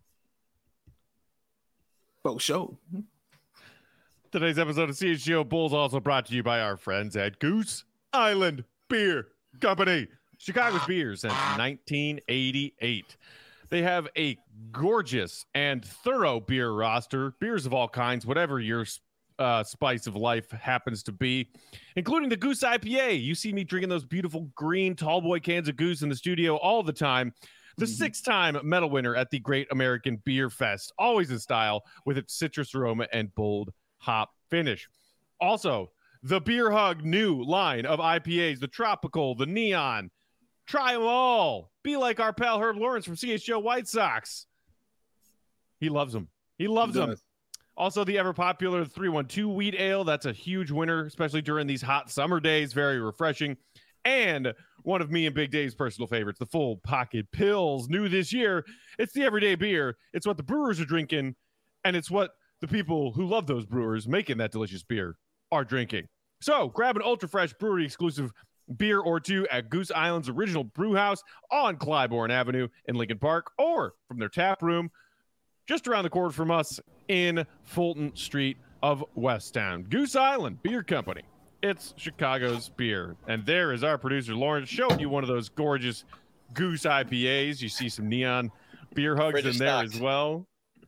Faux show. Today's episode of CHGO Bulls also brought to you by our friends at Goose Island Beer Company. Chicago's beer since 1988. They have a gorgeous and thorough beer roster, beers of all kinds, whatever your spice of life happens to be, including the Goose IPA. You see me drinking those beautiful green tall boy cans of Goose in the studio all the time. The six-time medal winner at the Great American Beer Fest, always in style with its citrus aroma and bold hop finish. Also, the Beer Hug new line of IPAs, the Tropical, the Neon. Try them all. Be like our pal Herb Lawrence from CHGO White Sox. He loves them. He loves them. Also, the ever-popular 312 Wheat Ale. That's a huge winner, especially during these hot summer days. Very refreshing. And one of me and Big Dave's personal favorites, the Full Pocket Pills. New this year, it's the everyday beer. It's what the brewers are drinking, and it's what the people who love those brewers making that delicious beer are drinking. So grab an ultra-fresh brewery-exclusive beer or two at Goose Island's original brew house on Clybourne Avenue in Lincoln Park, or from their tap room just around the corner from us in Fulton Street of Westtown. Goose Island Beer Company. It's Chicago's beer. And there is our producer, Lawrence, showing you one of those gorgeous Goose IPAs. You see some neon beer hugs in there as well.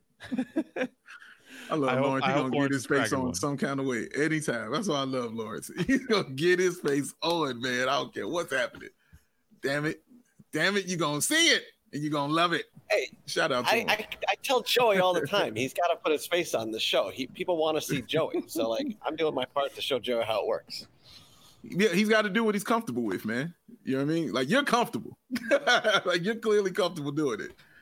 I love Lawrence. He's going to get his face on some kind of way anytime. That's why I love Lawrence. He's going to get his face on, man. I don't care what's happening. Damn it. Damn it. You're going to see it, and you're going to love it. Hey, shout out to him. I tell Joey all the time, he's got to put his face on the show. People want to see Joey. So, like, I'm doing my part to show Joey how it works. Yeah, he's got to do what he's comfortable with, man. You know what I mean? Like, you're comfortable. Like, you're clearly comfortable doing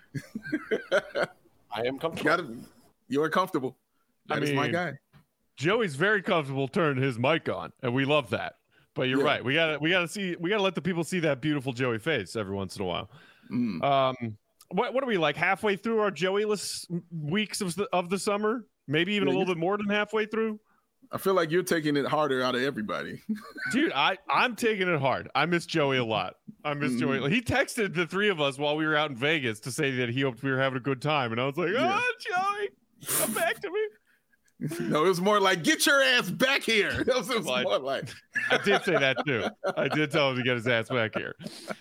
it. I am comfortable. You're comfortable. That is my guy. Joey's very comfortable turning his mic on, and we love that. But you're right. We gotta let the people see that beautiful Joey face every once in a while. What are we, like halfway through our Joey-less weeks of the summer? Maybe even a little bit more than halfway through. I feel like you're taking it harder out of everybody. Dude, I'm taking it hard. I miss Joey a lot. I miss Joey. He texted the three of us while we were out in Vegas to say that he hoped we were having a good time. And I was like, Joey, come back to me. No, it was more like, get your ass back here. That was more like. I did say that too. I did tell him to get his ass back here.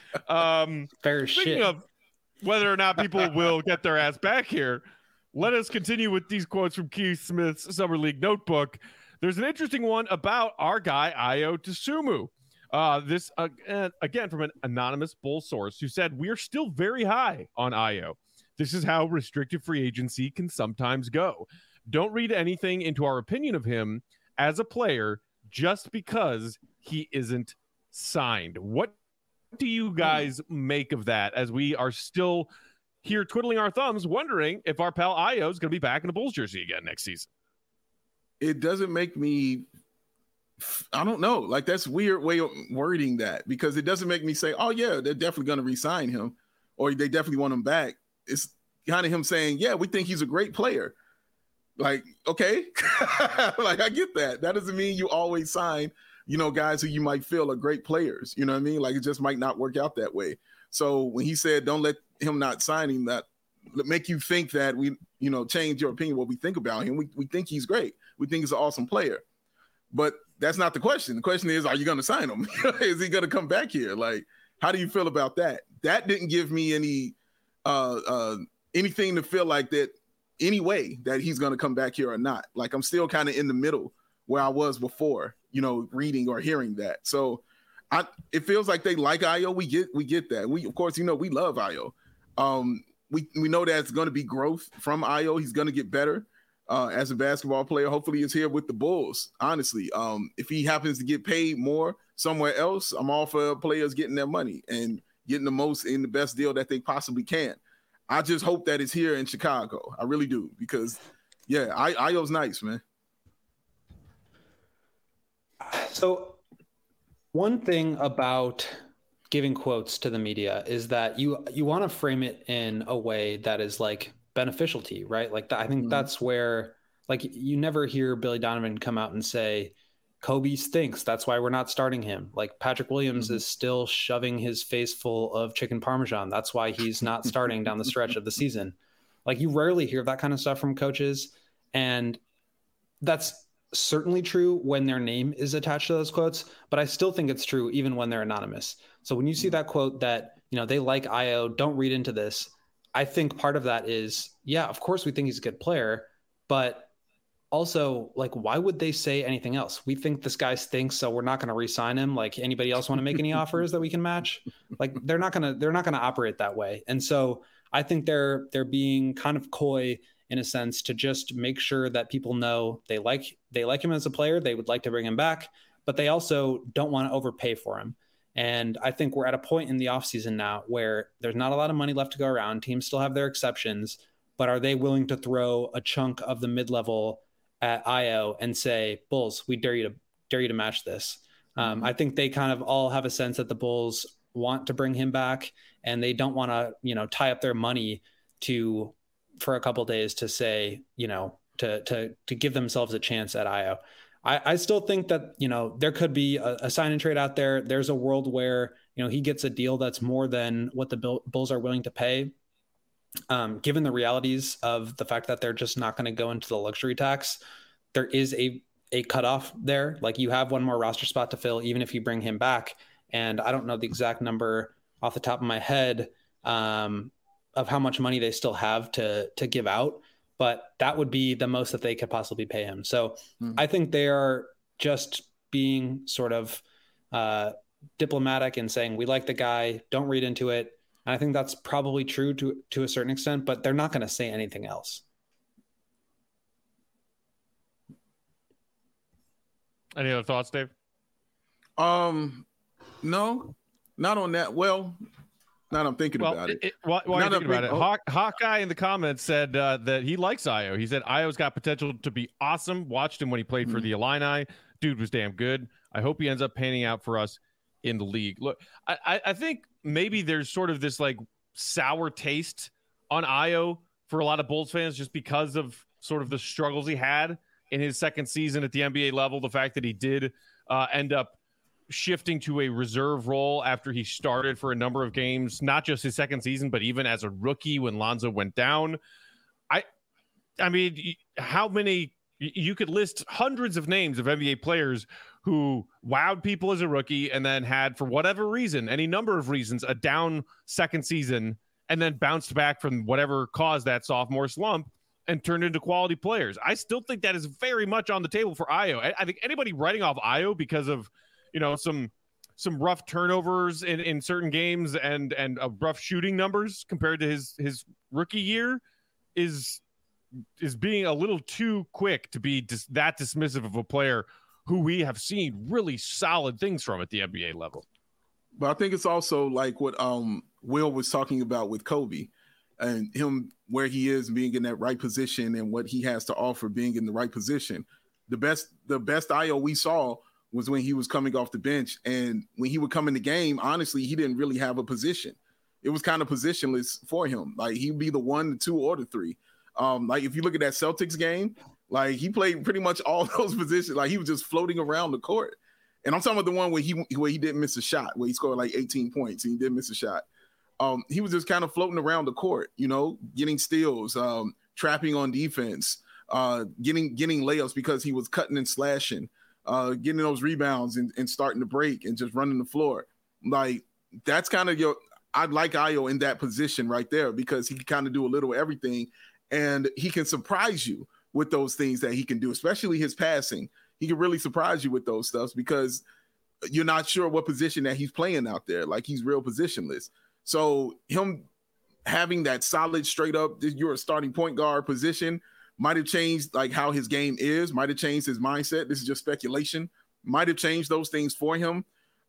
Fair speaking shit. of whether or not people will get their ass back here, let us continue with these quotes from Keith Smith's Summer League Notebook. There's an interesting one about our guy, Ayo Dosunmu. This, again, from an anonymous Bull source who said, we are still very high on Ayo. This is how restricted free agency can sometimes go. Don't read anything into our opinion of him as a player just because he isn't signed. What do you guys make of that, as we are still here twiddling our thumbs, wondering if our pal Ayo is going to be back in the Bulls jersey again next season? It doesn't make me, I don't know. Like, that's weird way of wording that, because it doesn't make me say, oh yeah, they're definitely going to re-sign him, or they definitely want him back. It's kind of him saying, yeah, we think he's a great player. Like, okay. Like, I get that. That doesn't mean you always sign, guys who you might feel are great players. You know what I mean? Like, it just might not work out that way. So when he said, don't let him not signing that make you think that we, change your opinion, what we think about him. We think he's great. We think he's an awesome player. But that's not the question. The question is, are you going to sign him? Is he going to come back here? Like, how do you feel about that? That didn't give me any anything to feel like that any way that he's going to come back here or not. Like, I'm still kind of in the middle where I was before, reading or hearing that. So it feels like they like Ayo. We get that. We, of course, we love Ayo. We know that it's going to be growth from Ayo. He's going to get better. as a basketball player. Hopefully he's here with the Bulls, honestly. If he happens to get paid more somewhere else, I'm all for players getting their money and getting the most in the best deal that they possibly can. I just hope that it's here in Chicago. I really do, because, yeah, Ayo's nice, man. So one thing about giving quotes to the media is that you want to frame it in a way that is like beneficial to you, right? Like I think that's where, like, you never hear Billy Donovan come out and say, Kobe stinks, that's why we're not starting him. Like Patrick Williams is still shoving his face full of chicken parmesan, that's why he's not starting down the stretch of the season. Like, you rarely hear that kind of stuff from coaches, and that's certainly true when their name is attached to those quotes, but I still think it's true even when they're anonymous. So when you see that quote that, you know, they like Ayo, don't read into this, I think part of that is, yeah, of course we think he's a good player, but also, like, why would they say anything else? We think this guy stinks, so we're not going to re-sign him. Like, anybody else want to make any offers that we can match? Like, they're not going to operate that way. And so I think they're being kind of coy in a sense to just make sure that people know they like him as a player. They would like to bring him back, but they also don't want to overpay for him. And I think we're at a point in the offseason now where there's not a lot of money left to go around. Teams still have their exceptions, but are they willing to throw a chunk of the mid-level at Ayo and say, Bulls, we dare you to match this? I think they kind of all have a sense that the Bulls want to bring him back, and they don't want to, you know, tie up their money for a couple of days to say, you know, to give themselves a chance at Ayo. I still think that, you know, there could be a sign and trade out there. There's a world where, you know, he gets a deal that's more than what the Bulls are willing to pay. Given the realities of the fact that they're just not going to go into the luxury tax, there is a cutoff there. Like, you have one more roster spot to fill, even if you bring him back. And I don't know the exact number off the top of my head of how much money they still have to give out, but that would be the most that they could possibly pay him. So I think they are just being sort of diplomatic and saying, we like the guy, don't read into it. And I think that's probably true to a certain extent, but they're not going to say anything else. Any other thoughts, Dave? No, not on that. Well, now I'm thinking about it. While you're thinking about it, Hawkeye in the comments said that he likes Ayo. He said Ayo's got potential to be awesome. Watched him when he played for the Illini. Dude was damn good. I hope he ends up panning out for us in the league. Look, I think maybe there's sort of this like sour taste on Ayo for a lot of Bulls fans just because of sort of the struggles he had in his second season at the NBA level. The fact that he did end up shifting to a reserve role after he started for a number of games, not just his second season, but even as a rookie when Lonzo went down. I mean, how many, you could list hundreds of names of NBA players who wowed people as a rookie and then had, for whatever reason, any number of reasons, a down second season and then bounced back from whatever caused that sophomore slump and turned into quality players. I still think that is very much on the table for Ayo. I think anybody writing off Ayo because of, you know, some rough turnovers in certain games and rough shooting numbers compared to his rookie year is being a little too quick to be that dismissive of a player who we have seen really solid things from at the NBA level. But I think it's also like what Will was talking about with Kobe and him, where he is being in that right position and what he has to offer being in the right position. The best Ayo we saw was when he was coming off the bench, and when he would come in the game, honestly, he didn't really have a position. It was kind of positionless for him. Like, he'd be the 1, the 2, or the 3. Like, if you look at that Celtics game, like, he played pretty much all those positions. Like, he was just floating around the court. And I'm talking about the one where he didn't miss a shot, where he scored like 18 points and he didn't miss a shot. He was just kind of floating around the court, you know, getting steals, trapping on defense, getting layups because he was cutting and slashing, getting those rebounds and starting to break and just running the floor. Like, that's kind of I'd like Ayo in that position right there, because he can kind of do a little of everything, and he can surprise you with those things that he can do, especially his passing. He can really surprise you with those stuff because you're not sure what position that he's playing out there. Like, he's real positionless. So him having that solid, straight up, you're a starting point guard position, might have changed like how his game is, might have changed his mindset. This is just speculation. Might have changed those things for him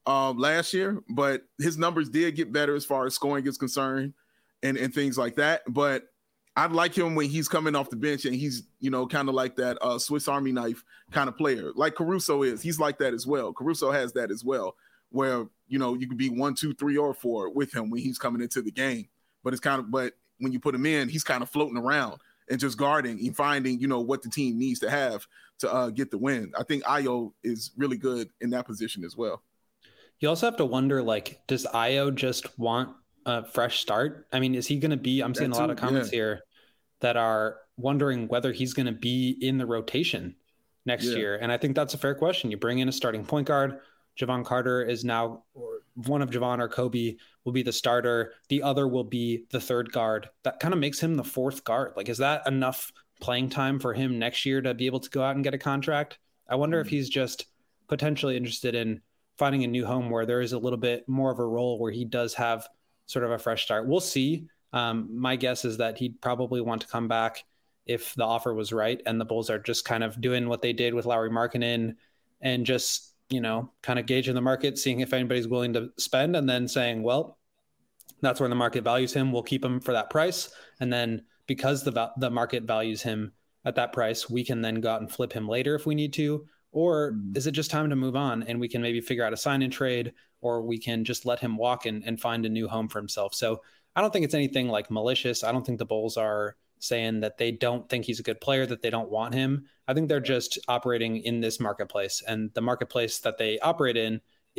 last year, but his numbers did get better as far as scoring is concerned and things like that. But I like him when he's coming off the bench and he's, kind of like that Swiss Army knife kind of player, like Caruso is. He's like that as well. Caruso has that as well, where, you could be 1, 2, 3, or 4 with him when he's coming into the game. But but when you put him in, he's kind of floating around and just guarding and finding, what the team needs to have to get the win. I think Ayo is really good in that position as well. You also have to wonder, like, does Ayo just want a fresh start? I mean, is he going to be, I'm seeing a lot of comments here that are wondering whether he's going to be in the rotation next year. And I think that's a fair question. You bring in a starting point guard. Javon Carter is now, or one of Javon or Kobe will be the starter. The other will be the third guard. That kind of makes him the fourth guard. Like, is that enough playing time for him next year to be able to go out and get a contract? I wonder if he's just potentially interested in finding a new home where there is a little bit more of a role where he does have sort of a fresh start. We'll see. My guess is that he'd probably want to come back if the offer was right, and the Bulls are just kind of doing what they did with Lauri Markkanen and just, kind of gauging the market, seeing if anybody's willing to spend, and then saying, well, that's where the market values him. We'll keep him for that price. And then because the market values him at that price, we can then go out and flip him later if we need to. Or is it just time to move on and we can maybe figure out a sign and trade, or we can just let him walk and find a new home for himself? So I don't think it's anything like malicious. I don't think the Bulls are saying that they don't think he's a good player, that they don't want him. I think they're just operating in this marketplace, and the marketplace that they operate in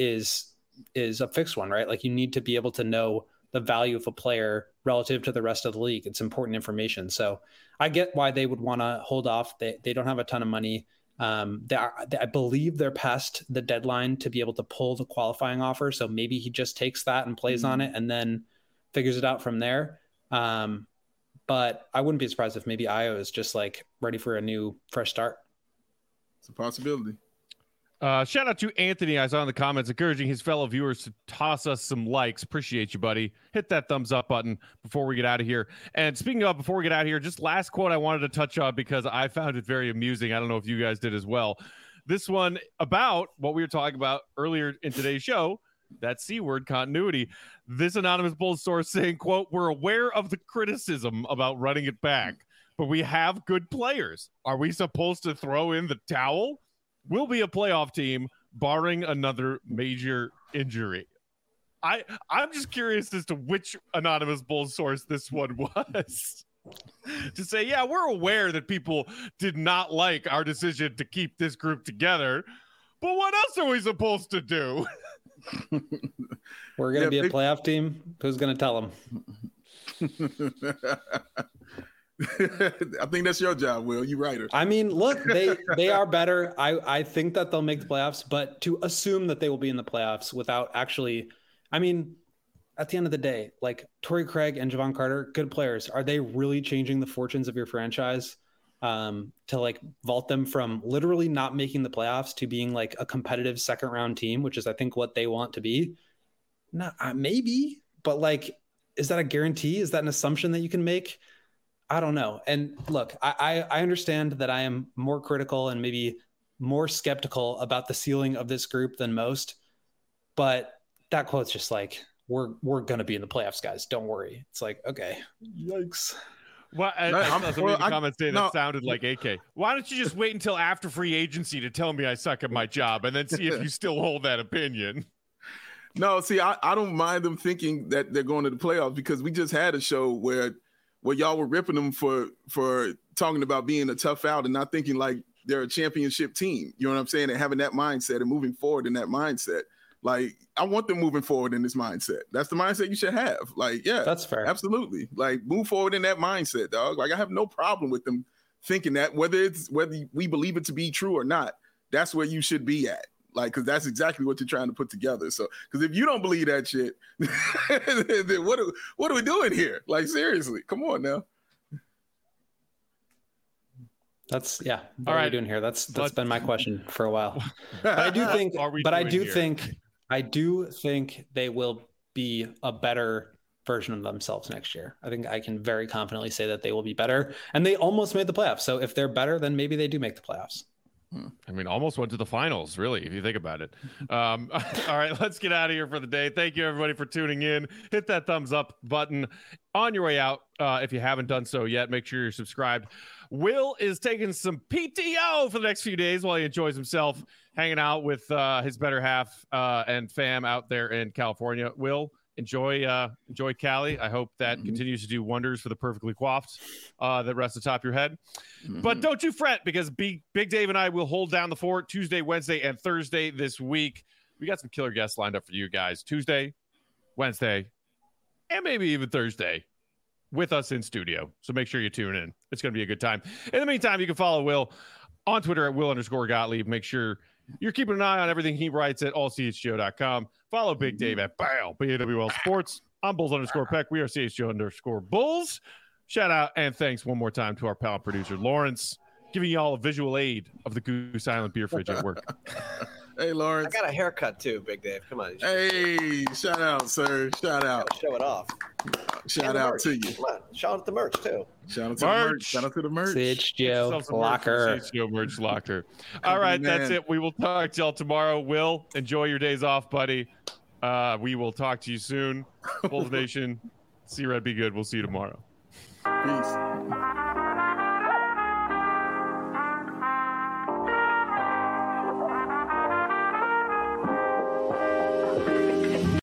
is a fixed one, right? Like, you need to be able to know the value of a player relative to the rest of the league. It's important information. So I get why they would want to hold off. They don't have a ton of money. I believe they're past the deadline to be able to pull the qualifying offer. So maybe he just takes that and plays on it and then figures it out from there. But I wouldn't be surprised if maybe Ayo is just like ready for a new fresh start. It's a possibility. Shout out to Anthony. I saw in the comments encouraging his fellow viewers to toss us some likes. Appreciate you, buddy. Hit that thumbs up button before we get out of here. And speaking of before we get out of here, just last quote I wanted to touch on because I found it very amusing. I don't know if you guys did as well. This one about what we were talking about earlier in today's show, that C word, continuity. This anonymous Bulls source saying, quote, "We're aware of the criticism about running it back, but we have good players. Are we supposed to throw in the towel? We'll be a playoff team, barring another major injury." I'm just curious as to which anonymous Bulls source this one was. To say, yeah, we're aware that people did not like our decision to keep this group together, but what else are we supposed to do? We're going to be a playoff team. Who's going to tell them? I think that's your job, Will. You writer. I mean, look, they are better. I think that they'll make the playoffs, but to assume that they will be in the playoffs without actually, I mean, at the end of the day, like Torrey Craig and Javon Carter, good players. Are they really changing the fortunes of your franchise to like vault them from literally not making the playoffs to being like a competitive second round team, which is I think what they want to be? No, maybe, but like, is that a guarantee? Is that an assumption that you can make? I don't know. And look, I understand that I am more critical and maybe more skeptical about the ceiling of this group than most, but that quote's just like, we're going to be in the playoffs, guys. Don't worry. It's like, okay, yikes. Well, I saw some comments saying that sounded like AK. Why don't you just wait until after free agency to tell me I suck at my job and then see if you still hold that opinion? No, see, I don't mind them thinking that they're going to the playoffs because we just had a show where y'all were ripping them for talking about being a tough out and not thinking like they're a championship team. You know what I'm saying? And having that mindset and moving forward in that mindset. Like, I want them moving forward in this mindset. That's the mindset you should have. Like, yeah, that's fair. Absolutely. Like, move forward in that mindset, dog. Like, I have no problem with them thinking that, whether we believe it to be true or not, that's where you should be at. Like, because that's exactly what you're trying to put together. So, because if you don't believe that shit, then what are we doing here? Like, seriously, come on now. What are we doing here? That's been my question for a while. But I do think, I do think they will be a better version of themselves next year. I think I can very confidently say that they will be better, and they almost made the playoffs. So if they're better, then maybe they do make the playoffs. I mean, almost went to the finals, really, if you think about it. All right, let's get out of here for the day. Thank you, everybody, for tuning in. Hit that thumbs up button on your way out. If you haven't done so yet, make sure you're subscribed. Will is taking some PTO for the next few days while he enjoys himself hanging out with his better half and fam out there in California. Will, enjoy Cali. I hope that continues to do wonders for the perfectly coiffed that rests atop your head. But don't you fret, because Big Dave and I will hold down the fort Tuesday, Wednesday, and Thursday this week. We got some killer guests lined up for you guys Tuesday, Wednesday, and maybe even Thursday with us in studio. So make sure you tune in. It's going to be a good time. In the meantime, you can follow Will on Twitter at Will_Gottlieb. Make sure you're keeping an eye on everything he writes at allchgo.com. Follow Big Dave at BAWL Sports. I'm Bulls_Peck. We are CHGO_Bulls. Shout out and thanks one more time to our pal and producer, Lawrence, giving you all a visual aid of the Goose Island beer fridge at work. Hey, Lawrence. I got a haircut too, Big Dave. Come on. Hey, shout out, sir. Shout out. Show it off. Shout out to you. Come on. Shout out the merch too. Shout out to the merch. Shout out to the merch. CHGO locker. CHGO merch locker. All right, that's it. We will talk to y'all tomorrow. Will, enjoy your days off, buddy. We will talk to you soon. Bulls Nation, see Red, be good. We'll see you tomorrow. Peace.